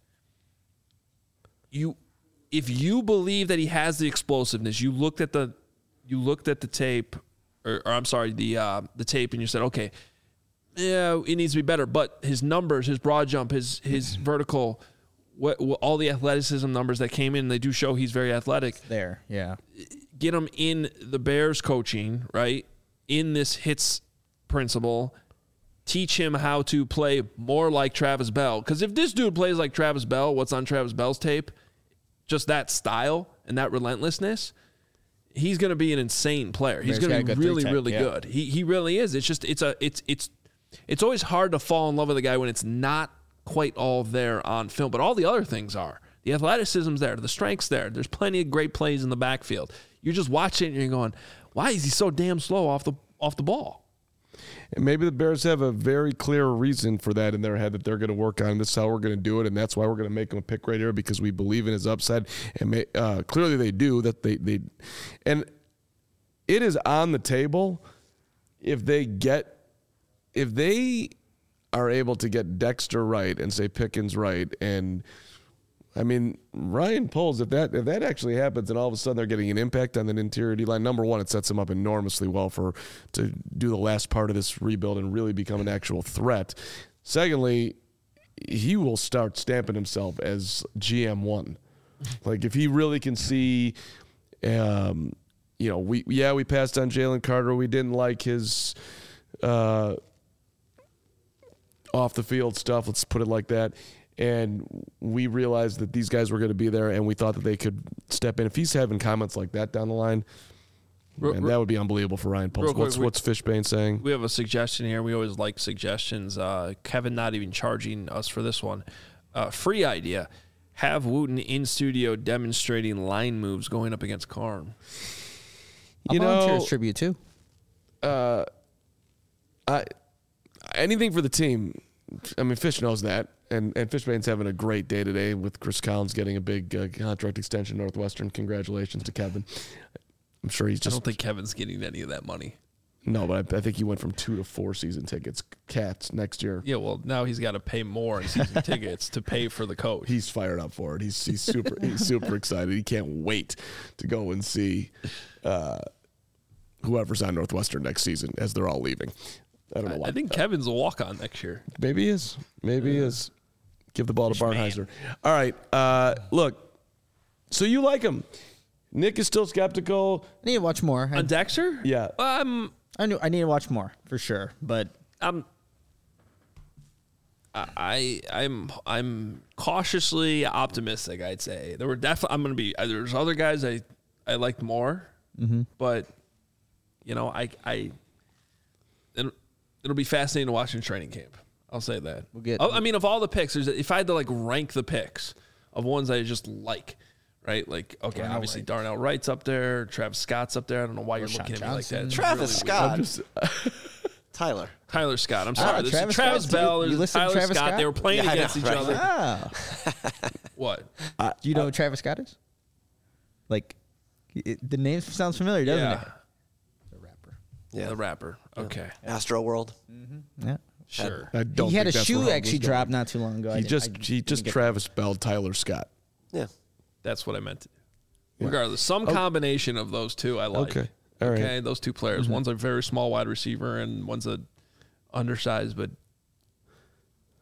you, if you believe that he has the explosiveness, you looked at the, you looked at the tape, Or, or I'm sorry, the uh, the tape, and you said, okay, yeah, it needs to be better. But his numbers, his broad jump, his his vertical, what, what, all the athleticism numbers that came in, they do show he's very athletic. There, yeah. Get him in the Bears coaching, right? In this hits principle, teach him how to play more like Travis Bell. Because if this dude plays like Travis Bell, what's on Travis Bell's tape, just that style and that relentlessness, he's going to be an insane player. He's going to be really, really yeah. good. He he really is. It's just it's a it's it's it's always hard to fall in love with a guy when it's not quite all there on film. But all the other things are. The athleticism's there. The strength's there. There's plenty of great plays in the backfield. You're just watching it and you're going, why is he so damn slow off the off the ball? And maybe the Bears have a very clear reason for that in their head that they're going to work on. This is how we're going to do it, and that's why we're going to make him a pick right here because we believe in his upside. And may, uh, clearly they do. That they they, and it is on the table if they get if they are able to get Dexter right and say Pickens right, and I mean Ryan Poles. If that if that actually happens, and all of a sudden they're getting an impact on that interior D line. Number one, it sets them up enormously well for to do the last part of this rebuild and really become an actual threat. Secondly, he will start stamping himself as G M one. Like if he really can see, um, you know, we yeah we passed on Jalen Carter. We didn't like his uh, off the field stuff. Let's put it like that. And we realized that these guys were going to be there, and we thought that they could step in. If he's having comments like that down the line, man, that would be unbelievable for Ryan Poles. What's, we, what's Fishbane saying? We have a suggestion here. We always like suggestions. Uh, Kevin not even charging us for this one. Uh, free idea. Have Wooten in studio demonstrating line moves going up against Karn. You I'll volunteer know, as tribute too. Uh, I, anything for the team. I mean, Fish knows that. And and Fishbane's having a great day today with Chris Collins getting a big uh, contract extension Northwestern. Congratulations to Kevin. I'm sure he's just. I don't think Kevin's getting any of that money. No, but I, I think he went from two to four season tickets. Cats next year. Yeah, well, now he's got to pay more in season tickets to pay for the coach. He's fired up for it. He's he's super he's super excited. He can't wait to go and see uh, whoever's on Northwestern next season as they're all leaving. I don't know why. I think Kevin's a walk-on next year. Maybe he is. Maybe he is. Give the ball to Barnheiser. Man. All right. Uh, look, so you like him. Nick is still skeptical. I need to watch more. I, On Dexter? Yeah. Um, I knew I need to watch more for sure. But I'm. I I'm I'm cautiously optimistic. I'd say there were definitely. I'm gonna be. There's other guys I I liked more, mm-hmm. but you know I I. It'll, it'll be fascinating to watch in training camp. I'll say that. We'll get. I mean, of all the picks, there's, if I had to like rank the picks of ones I just like, right? Like, okay, Darnell obviously Wright. Darnell Wright's up there. Travis Scott's up there. I don't know why you're Rashawn looking at me like that. Johnson. It's Travis really weird. Scott. Just, Tyler. Tyler Scott. I'm Ah, sorry. There's Travis Travis, Scott. Bell. You There's listed Tyler Travis Scott. Scott? They were playing Yeah, I against know, each right? other. ah, What? do you know who Travis Scott is? Like, it, the name sounds familiar, doesn't Yeah. it? The rapper. Yeah. The rapper. Okay. Astro World. Yeah. Sure. I don't He had a think that's where shoe Hub actually was going. dropped not too long ago. I He didn't- just I he just didn't get Travis Bell, Tyler Scott. Yeah. That's what I meant to do. Regardless, some combination of those two I like. Okay. All right. Okay, those two players. Mm-hmm. One's a very small wide receiver and one's a undersized, but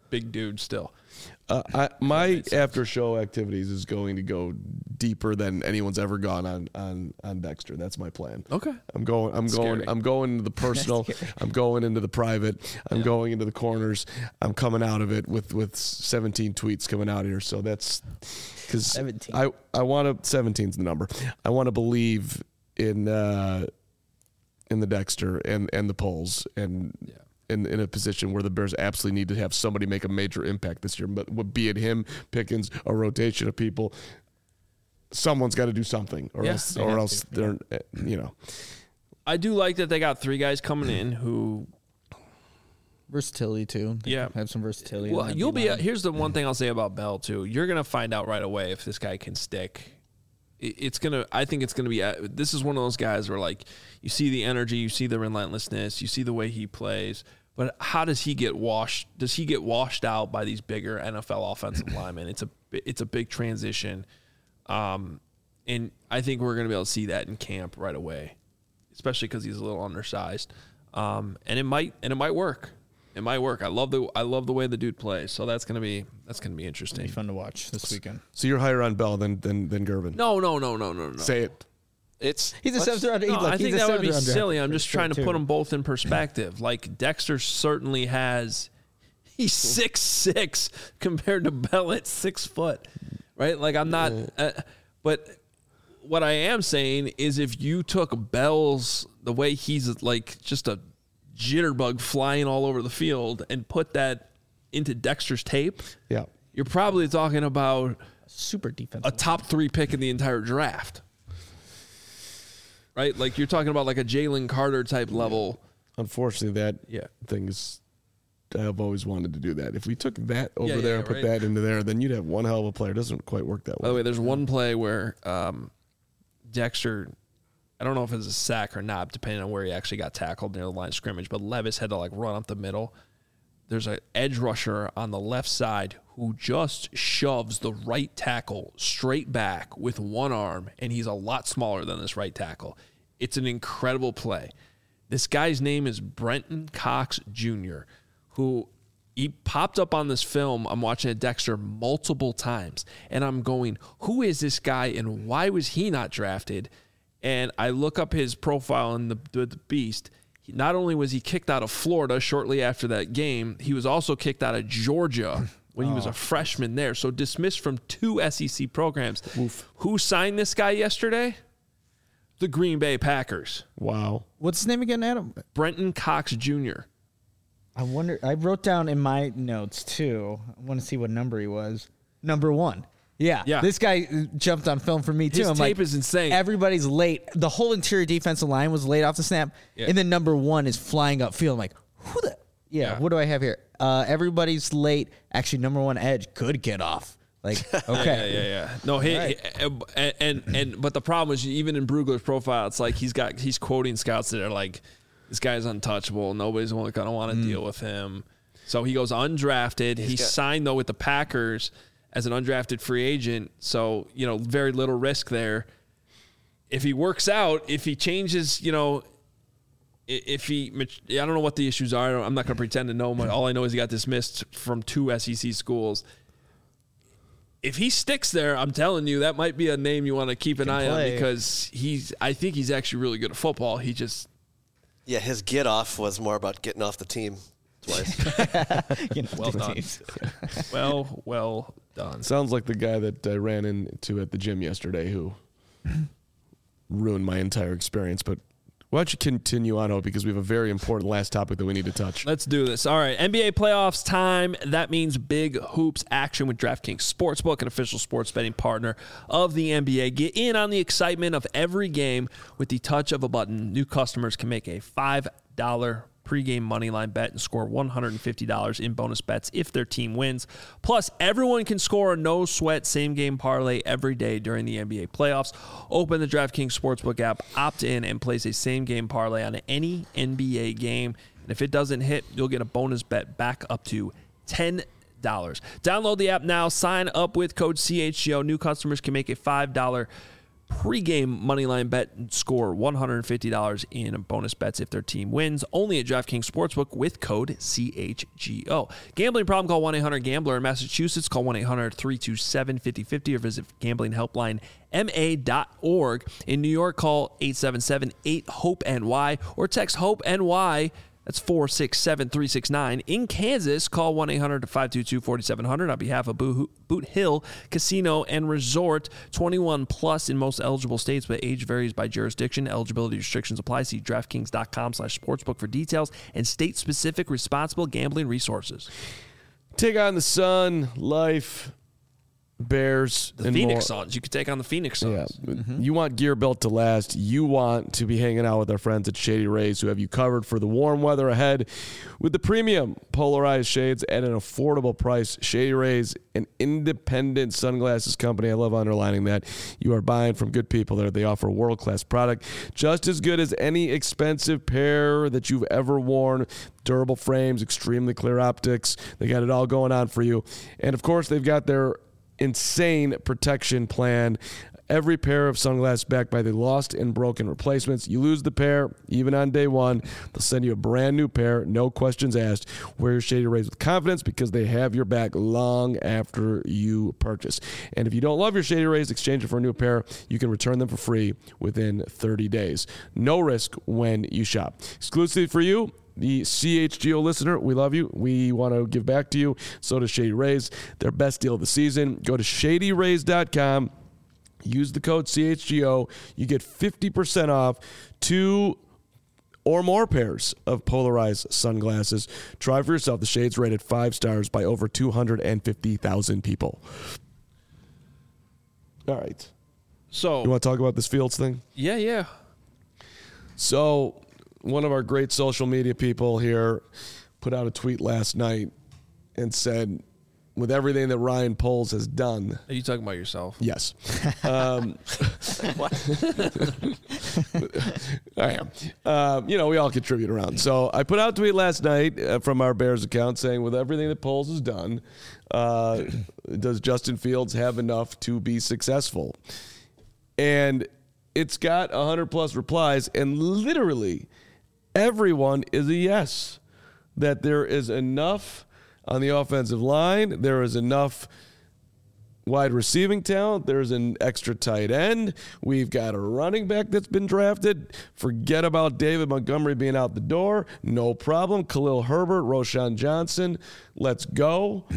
big dude still. Uh, I, my after show activities is going to go deeper than anyone's ever gone on on on Dexter. That's my plan. Okay. I'm going. I'm That's going. scary. I'm going into the personal. I'm going into the private. I'm Yeah. going into the corners. I'm coming out of it with with seventeen tweets coming out here. So that's because seventeen. I I want to. seventeen's the number. I want to believe in uh, in the Dexter and and the polls and. Yeah. In, in a position where the Bears absolutely need to have somebody make a major impact this year, but would be it him, Pickens, a rotation of people. Someone's got to do something, or Yeah, else, they or have else to, they're, uh, you know. I do like that they got three guys coming in who Versatility too. They Yeah. have some versatility. in Well, that you'll be. D-line. Here's the one thing I'll say about Bell too. You're gonna find out right away if this guy can stick. It- It's gonna. I think it's gonna be. uh, This is one of those guys where like you see the energy, you see the relentlessness, you see the way he plays. But how does he get washed? Does he get washed out by these bigger N F L offensive linemen? It's a. It's a big transition, um, and I think we're gonna be able to see that in camp right away, especially because he's a little undersized, um, and it might and it might work. It might work. I love the I love the way the dude plays. So that's gonna be that's gonna be interesting. Be fun to watch this weekend. So you're higher on Bell than than than Gervin. No, no, no, no, no, no. Say it. It's He's a let's- seventh round. No, look, I he's think a that would be seventh round silly. draft I'm just pick, trying to too. put them both in perspective. Like Dexter certainly has. He's six six compared to Bell at six foot, right? Like I'm not. Uh, but what I am saying is, if you took Bell's the way he's like just a jitterbug flying all over the field and put that into Dexter's tape, Yeah. you're probably talking about super defensive. a top three pick in the entire draft. Right? Like you're talking about like a Jalen Carter type level. Unfortunately, that Yeah. thing is. I've always wanted to do that. If we took that over Yeah, there yeah, and put right. that into there, then you'd have one hell of a player. It doesn't quite work that By the way. way, there's one play where um, Dexter, I don't know if it was a sack or not, depending on where he actually got tackled near the line of scrimmage, but Levis had to like run up the middle. There's an edge rusher on the left side who just shoves the right tackle straight back with one arm, and he's a lot smaller than this right tackle. It's an incredible play. This guy's name is Brenton Cox Junior, who he popped up on this film. I'm watching at Dexter multiple times, and I'm going, who is this guy, and why was he not drafted? And I look up his profile in the, the, the Beast. He, not only was he kicked out of Florida shortly after that game, he was also kicked out of Georgia when he was a freshman there. So dismissed from two S E C programs. Oof. Who signed this guy yesterday? The Green Bay Packers. Wow. What's his name again, Adam? Brenton Cox Junior I wonder. I wrote down in my notes too. I want to see what number he was. Number one. Yeah. Yeah. This guy jumped on film for me too. His I'm tape like, is insane. Everybody's late. The whole interior defensive line was late off the snap, Yeah. and then number one is flying upfield. I'm like, who the? Yeah. Yeah. What do I have here? Uh, everybody's late. Actually, number one edge could get off. Like, okay. Yeah, yeah, yeah. No, he, Right. he- and, and and but the problem is even in Brugler's profile, it's like he's got he's quoting scouts that are like, this guy's untouchable. Nobody's going to want to deal with him. So he goes undrafted. He got- signed though with the Packers as an undrafted free agent. So you know, very little risk there. If he works out, if he changes, you know. i- If he, I don't know what the issues are. I'm not going to pretend to know. All I know is he got dismissed from two S E C schools. If he sticks there, I'm telling you, that might be a name you want to keep an eye on play. because he's. I think he's actually really good at football. He just. Yeah, his get off was more about getting off the team twice. You know, Well the done. teams. Well, well done. Sounds like the guy that I ran into at the gym yesterday who ruined my entire experience. But why don't you continue on, because we have a very important last topic that we need to touch. Let's do this. All right, N B A playoffs time. That means big hoops action with DraftKings Sportsbook, an official sports betting partner of the N B A. Get in on the excitement of every game with the touch of a button. New customers can make a five dollar pregame moneyline bet and score one hundred fifty dollars in bonus bets if their team wins. Plus, everyone can score a no-sweat same-game parlay every day during the N B A playoffs. Open the DraftKings Sportsbook app, opt in, and place a same-game parlay on any N B A game. And if it doesn't hit, you'll get a bonus bet back up to ten dollars. Download the app now. Sign up with code C H G O. New customers can make a five dollar pregame moneyline bet and score one hundred fifty dollars in bonus bets if their team wins. Only at DraftKings Sportsbook with code C H G O. Gambling problem? Call one eight hundred gambler. In Massachusetts, call one eight hundred three two seven five zero five zero or visit gambling helpline M A dot org. In New York, call eight seven seven eight hope N Y or text HOPE-NY. That's four six seven three six nine. In Kansas, call one eight hundred five two two four seven zero zero on behalf of Boot Hill Casino and Resort. twenty-one plus in most eligible states, but age varies by jurisdiction. Eligibility restrictions apply. See DraftKings.com slash sportsbook for details and state-specific responsible gambling resources. Take on the Sun, Life, Bears, The and Phoenix more. Suns. You could take on the Phoenix Suns. Yeah. Mm-hmm. You want gear built to last. You want to be hanging out with our friends at Shady Rays, who have you covered for the warm weather ahead with the premium polarized shades at an affordable price. Shady Rays, an independent sunglasses company. I love underlining that. You are buying from good people there. They offer a world-class product, just as good as any expensive pair that you've ever worn. Durable frames, extremely clear optics. They got it all going on for you. And, of course, they've got their insane protection plan. Every pair of sunglasses backed by the lost and broken replacements. You lose the pair, even on day one, they'll send you a brand new pair, no questions asked. Wear your Shady Rays with confidence because they have your back long after you purchase. And if you don't love your Shady Rays, exchange it for a new pair. You can return them for free within thirty days. No risk when you shop. Exclusively for you, the C H G O listener, we love you. We want to give back to you. So does Shady Rays. Their best deal of the season. Go to shady rays dot com. Use the code C H G O. You get fifty percent off two or more pairs of polarized sunglasses. Try for yourself. The shades rated five stars by over two hundred fifty thousand people. All right. So, You want to talk about this Fields thing? yeah, yeah. So, one of our great social media people here put out a tweet last night and said, with everything that Ryan Poles has done. Are you talking about yourself? Yes. Um, I am. Um, you know, we all contribute around. So I put out a tweet last night uh, from our Bears account saying, with everything that Poles has done, uh, does Justin Fields have enough to be successful? And it's got one hundred plus replies, and literally everyone is a yes, that there is enough on the offensive line. There is enough wide receiving talent. There's an extra tight end. We've got a running back that's been drafted. Forget about David Montgomery being out the door. No problem. Khalil Herbert, Roschon Johnson. Let's go.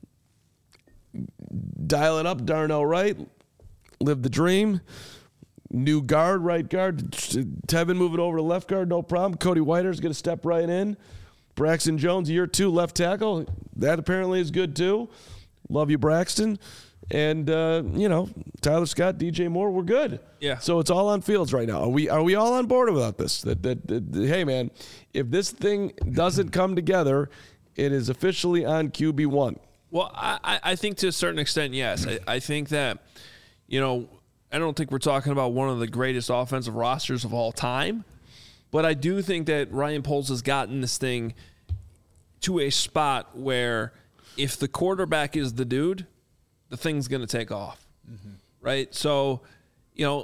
Dial it up, Darnell Wright. Live the dream. New guard, right guard. Tevin moving over to left guard, no problem. Cody Whiter's going to step right in. Braxton Jones, year two, left tackle. That apparently is good too. Love you, Braxton. And, uh, you know, Tyler Scott, D J Moore, we're good. Yeah. So it's all on Fields right now. Are we are we all on board without this? That, that, that, that hey, man, if this thing doesn't come together, it is officially on Q B one. Well, I, I think to a certain extent, yes. I, I think that, you know, I don't think we're talking about one of the greatest offensive rosters of all time, but I do think that Ryan Poles has gotten this thing to a spot where if the quarterback is the dude, the thing's going to take off, mm-hmm. right? So, you know,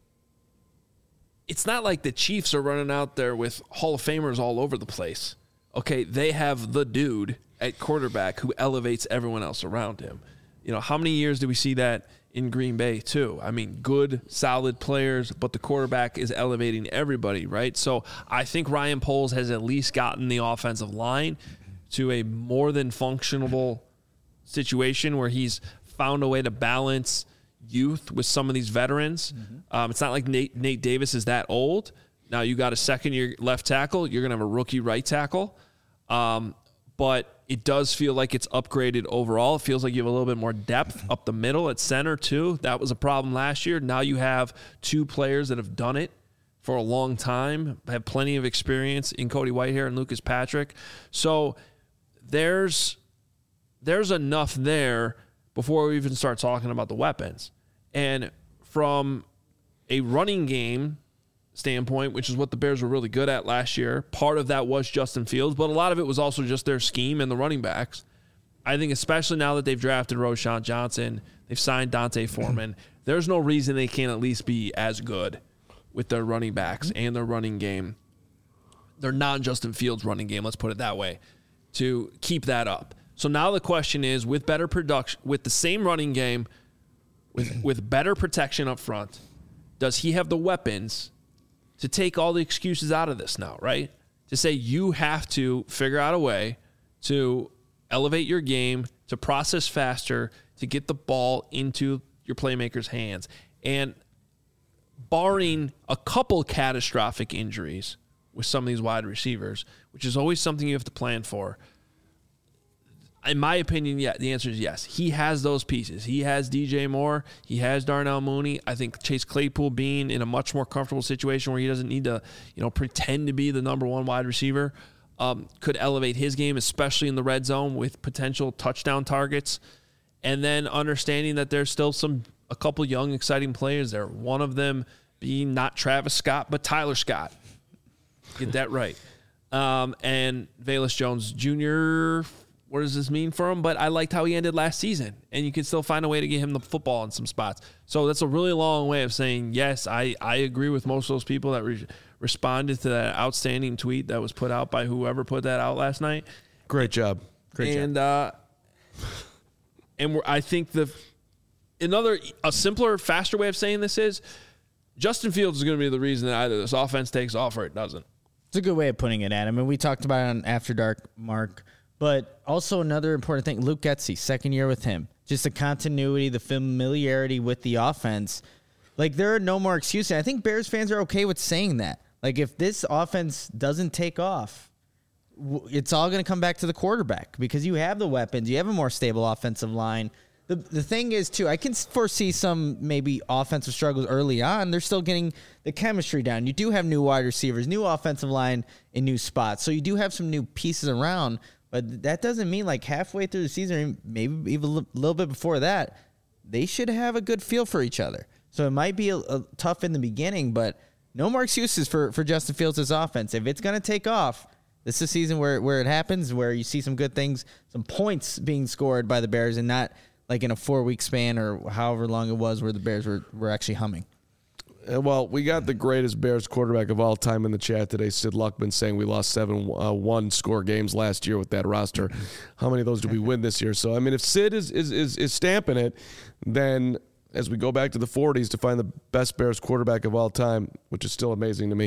it's not like the Chiefs are running out there with Hall of Famers all over the place. Okay, they have the dude at quarterback who elevates everyone else around him. You know, how many years do we see that in Green Bay too? I mean, good, solid players, but the quarterback is elevating everybody, right? So I think Ryan Poles has at least gotten the offensive line to a more than functionable situation where he's found a way to balance youth with some of these veterans. Mm-hmm. Um, it's not like Nate, Nate Davis is that old. Now you got a second-year left tackle. You're going to have a rookie right tackle. Um, but it does feel like it's upgraded overall. It feels like you have a little bit more depth up the middle at center, too. That was a problem last year. Now you have two players that have done it for a long time, have plenty of experience in Cody Whitehair and Lucas Patrick. So there's there's enough there before we even start talking about the weapons. And from a running game standpoint, which is what the Bears were really good at last year, part of that was Justin Fields, but a lot of it was also just their scheme and the running backs. I think especially now that they've drafted Roschon Johnson, they've signed Dante Foreman, there's no reason they can't at least be as good with their running backs and their running game. Their non-Justin Fields running game, let's put it that way, to keep that up. So now the question is, with better production, with the same running game, with with better protection up front, does he have the weapons to take all the excuses out of this now, right? To say you have to figure out a way to elevate your game, to process faster, to get the ball into your playmakers' hands. And barring a couple catastrophic injuries with some of these wide receivers, which is always something you have to plan for, in my opinion, yeah, the answer is yes. He has those pieces. He has D J Moore. He has Darnell Mooney. I think Chase Claypool being in a much more comfortable situation where he doesn't need to, you know, pretend to be the number one wide receiver um, could elevate his game, especially in the red zone with potential touchdown targets. And then understanding that there's still some a couple young, exciting players there. One of them being not Travis Scott, but Tyler Scott. Get that right. Um, and Velus Jones Junior What does this mean for him? But I liked how he ended last season, and you can still find a way to get him the football in some spots. So that's a really long way of saying, yes, I, I agree with most of those people that re- responded to that outstanding tweet that was put out by whoever put that out last night. Great job. Great and, job. Uh, and we're, I think the another a simpler, faster way of saying this is Justin Fields is going to be the reason that either this offense takes off or it doesn't. It's a good way of putting it, Adam. And we talked about it on After Dark, Mark. But also another important thing, Luke Getsy, second year with him. Just the continuity, the familiarity with the offense. Like, there are no more excuses. I think Bears fans are okay with saying that. Like, if this offense doesn't take off, it's all going to come back to the quarterback because you have the weapons. You have a more stable offensive line. The the thing is, too, I can foresee some maybe offensive struggles early on. They're still getting the chemistry down. You do have new wide receivers, new offensive line in new spots. So you do have some new pieces around. But that doesn't mean like halfway through the season, maybe even a little bit before that, they should have a good feel for each other. So it might be a, a tough in the beginning, but no more excuses for, for Justin Fields' offense. If it's going to take off, this is a season where, where it happens, where you see some good things, some points being scored by the Bears and not like in a four-week span or however long it was where the Bears were, were actually humming. Well, we got the greatest Bears quarterback of all time in the chat today, Sid Luckman, saying we lost seven uh, one-score games last year with that roster. How many of those did we win this year? So, I mean, if Sid is, is, is, is stamping it, then as we go back to the forties to find the best Bears quarterback of all time, which is still amazing to me,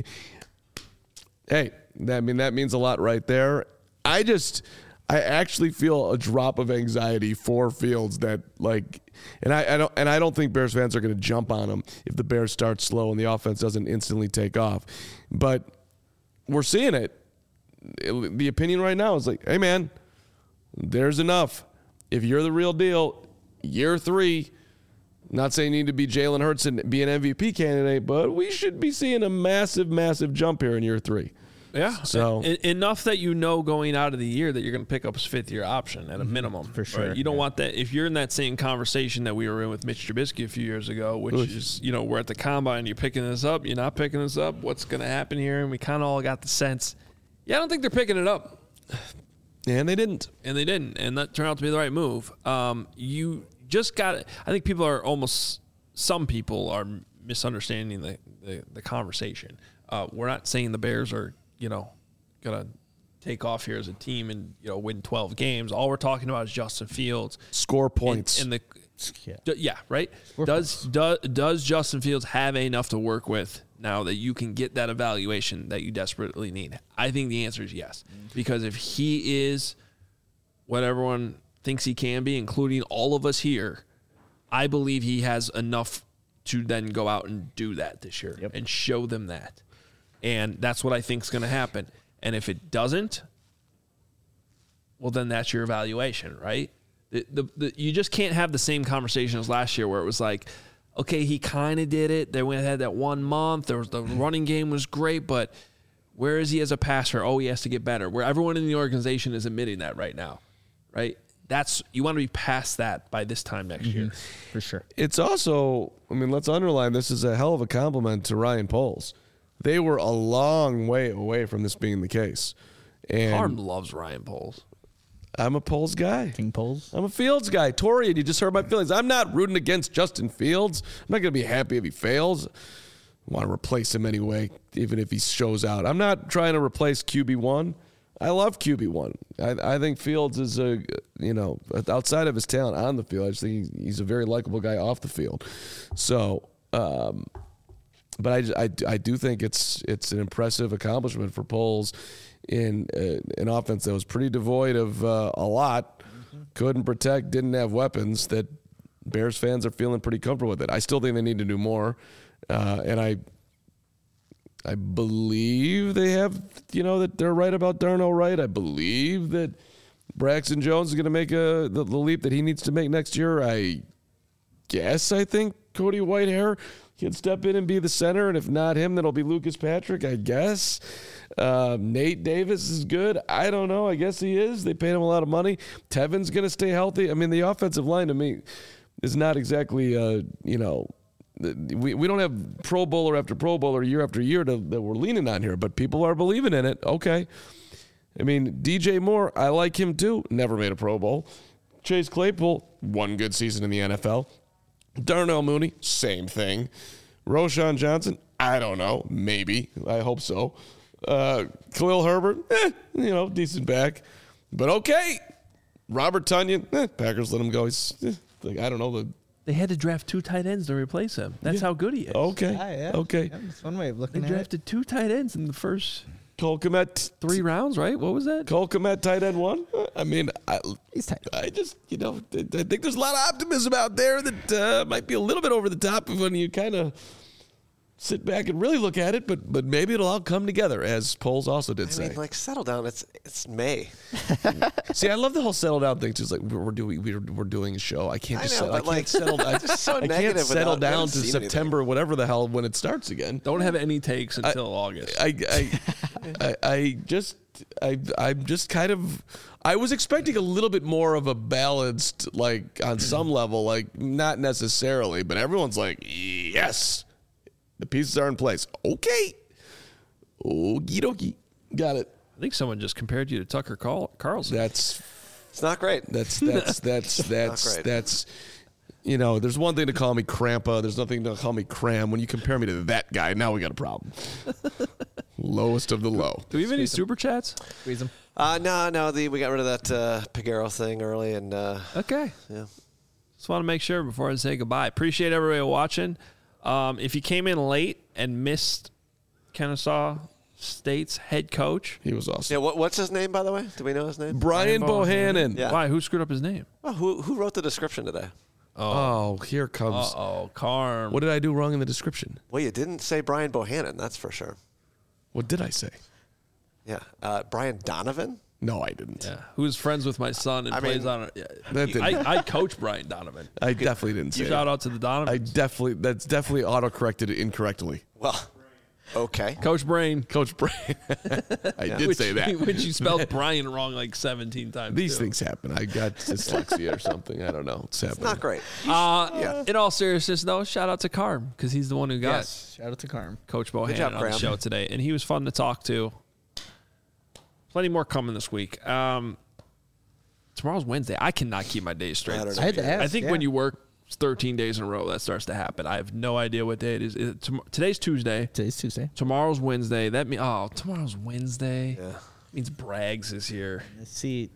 hey, that, I mean, that means a lot right there. I just – I actually feel a drop of anxiety for Fields that like, and I, I don't, and I don't think Bears fans are going to jump on him if the Bears start slow and the offense doesn't instantly take off. But we're seeing it. it. The opinion right now is like, hey man, there's enough. If you're the real deal, year three. Not saying you need to be Jalen Hurts and be an M V P candidate, but we should be seeing a massive, massive jump here in year three. Yeah, so e- enough that you know going out of the year that you're going to pick up his fifth year option at a minimum. For sure. Right? You don't yeah. want that. If you're in that same conversation that we were in with Mitch Trubisky a few years ago, which Oof. is, you know, we're at the combine, you're picking this up, you're not picking this up, what's going to happen here? And we kind of all got the sense, yeah, I don't think they're picking it up. And they didn't. And they didn't. And that turned out to be the right move. Um, you just got it. I think people are almost, some people are misunderstanding the, the, the conversation. Uh, we're not saying the Bears are, you know, gonna take off here as a team and, you know, win twelve games. All we're talking about is Justin Fields. Score points. And, and the Yeah, d- yeah right. Score does does does Justin Fields have enough to work with now that you can get that evaluation that you desperately need? I think the answer is yes, because if he is what everyone thinks he can be, including all of us here, I believe he has enough to then go out and do that this year Yep. and show them that. And that's what I think is going to happen. And if it doesn't, well, then that's your evaluation, right? The, the, the, you just can't have the same conversation as last year where it was like, okay, he kind of did it. They went ahead that one month. There was the running game was great, but where is he as a passer? Oh, he has to get better. Where everyone in the organization is admitting that right now, right? That's you want to be past that by this time next mm-hmm. year. for sure. It's also, I mean, let's underline this is a hell of a compliment to Ryan Poles. They were a long way away from this being the case. And Harm loves Ryan Poles. I'm a Poles guy. King Poles. I'm a Fields guy. Tori, you just heard my feelings. I'm not rooting against Justin Fields. I'm not going to be happy if he fails. I want to replace him anyway, even if he shows out. I'm not trying to replace Q B one. I love Q B one. I, I think Fields is a, you know, outside of his talent on the field, I just think he's a very likable guy off the field. So, um, but I, I, I do think it's it's an impressive accomplishment for Poles in uh, an offense that was pretty devoid of uh, a lot, mm-hmm. couldn't protect, didn't have weapons, that Bears fans are feeling pretty comfortable with it. I still think they need to do more, uh, and I I believe they have, you know, that they're right about Darnell Wright. I believe that Braxton Jones is going to make a the, the leap that he needs to make next year. I guess I think Cody Whitehair can step in and be the center, and if not him, then it'll be Lucas Patrick, I guess. Uh, Nate Davis is good. I don't know. I guess he is. They paid him a lot of money. Tevin's going to stay healthy. I mean, the offensive line to me is not exactly, uh, you know, we, we don't have Pro Bowler after Pro Bowler year after year to, that we're leaning on here, but people are believing in it. Okay. I mean, D J Moore, I like him too. Never made a Pro Bowl. Chase Claypool, one good season in the N F L. Darnell Mooney, same thing. Roshan Johnson, I don't know. Maybe. I hope so. Uh, Khalil Herbert, eh, you know, decent back. But okay. Robert Tonyan, eh, Packers let him go. He's, eh, like, I don't know. The They had to draft two tight ends to replace him. That's Yeah. how good he is. Okay. Ah, yeah. Okay. Yeah, that's one way of They looking at it. drafted two tight ends in the first Cole Kmet, three rounds, right? What was that? Cole Kmet, tight end one. I mean, I, He's tight. I just, you know, I think there's a lot of optimism out there that uh, might be a little bit over the top when you kind of sit back and really look at it, but but maybe it'll all come together, as Poles also did I say. mean, like, settle down. It's it's May. See, I love the whole settle down thing. Just like we're doing, we're, we're doing a show. I can't I just, know, settle, but, I can't like, settle. I, just so I can't negative settle without- we down haven't to seen September, whatever the hell, when it starts again. Don't have any takes until August. I, I, I, I just, I, I'm just kind of. I was expecting a little bit more of a balanced, like on some level, like not necessarily, but everyone's like, yes, the pieces are in place. Okay, okie dokie, got it. I think someone just compared you to Tucker Carl- Carlson. That's It's not great. that's that's that's that's great. that's. You know, there's one thing to call me Crampa. There's nothing to call me Cram. When you compare me to that guy, now we got a problem. Lowest of the low. Do we have any super chats? Squeeze him. Uh, no, no. The we got rid of that uh, Pagero thing early, and uh, Okay. yeah. Just want to make sure before I say goodbye. Appreciate everybody watching. Um, if you came in late and missed Kennesaw State's head coach, He was awesome. Yeah. What, what's his name, by the way? Do we know his name? Brian Brian Bohannon. Yeah. why? Who screwed up his name? Well, who who wrote the description today? Oh, here comes. Oh, Carm. What did I do wrong in the description? Well, you didn't say Brian Bohannon. That's for sure. What did I say? Yeah. Uh, Brian Donovan. No, I didn't. Yeah, who's friends with my son and I plays mean, on it. Yeah. That didn't. I, I coach Brian Donovan. I definitely didn't say. Shout it. out to the Donovan. I definitely. That's definitely auto-corrected incorrectly. Well, okay. Coach Brain. Coach Brian. I did which, say that. Which you spelled Brian wrong like seventeen times. These too. things happen. I got dyslexia or something. I don't know. It's happening. Not great. Uh, Yeah. In all seriousness, though, shout out to Carm because he's the one who got Yes. Shout out to Carm. Coach Bohannon job, on the Graham. show today, and he was fun to talk to. Plenty more coming this week. Um, tomorrow's Wednesday. I cannot keep my days straight. Saturday. I had to ask. I think yeah. when you work thirteen days in a row, that starts to happen. I have no idea what day it is. Is it tom- today's Tuesday. Today's Tuesday. Tomorrow's Wednesday. That means oh, tomorrow's Wednesday. Yeah. Means Braggs is here. Let's see.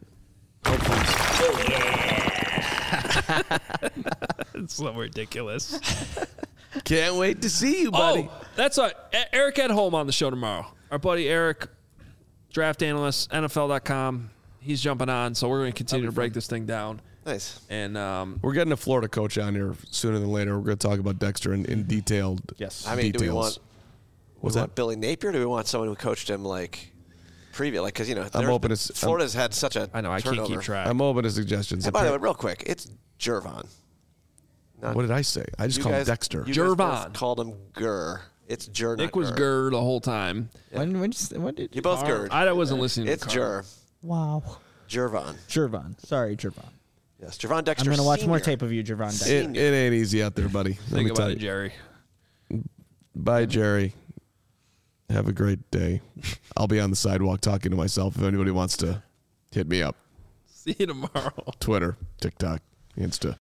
It's so ridiculous. Can't wait to see you, buddy. Oh, that's right. E- Eric Edholm on the show tomorrow. Our buddy Eric, draft analyst, N F L dot com. He's jumping on, so we're going to continue to break this thing down. Nice. And um, We're getting a Florida coach on here sooner than later. We're going to talk about Dexter in, in detailed. Yes. I mean, do we details. want? What's we that? want Billy Napier? Or do we want someone who coached him like previous? Like, because you know, I'm there's open been- to s- I'm- Florida's had such a. I know I turnover. can't keep track. I'm open to suggestions. And by the way, real quick, it's Jervon. Not, What did I say? I just you called him guys- Dexter. You guys both Jervon. called him Gurr. It's Jer. Nick not was Gurr. Gurr the whole time. When, when, you, when did You both Carl- Gurred. I wasn't listening It's to Carl. Jer. Wow. Jervon. Jervon. Sorry, Jervon. Yes, Jervon I'm Dexter. going to watch more Senior. tape of you, Jervon. Dexter. It, it ain't easy out there, buddy. Let Think me tell about you. it, Jerry. Bye, Jerry. Have a great day. I'll be on the sidewalk talking to myself if anybody wants to hit me up. See you tomorrow. Twitter, TikTok, Insta.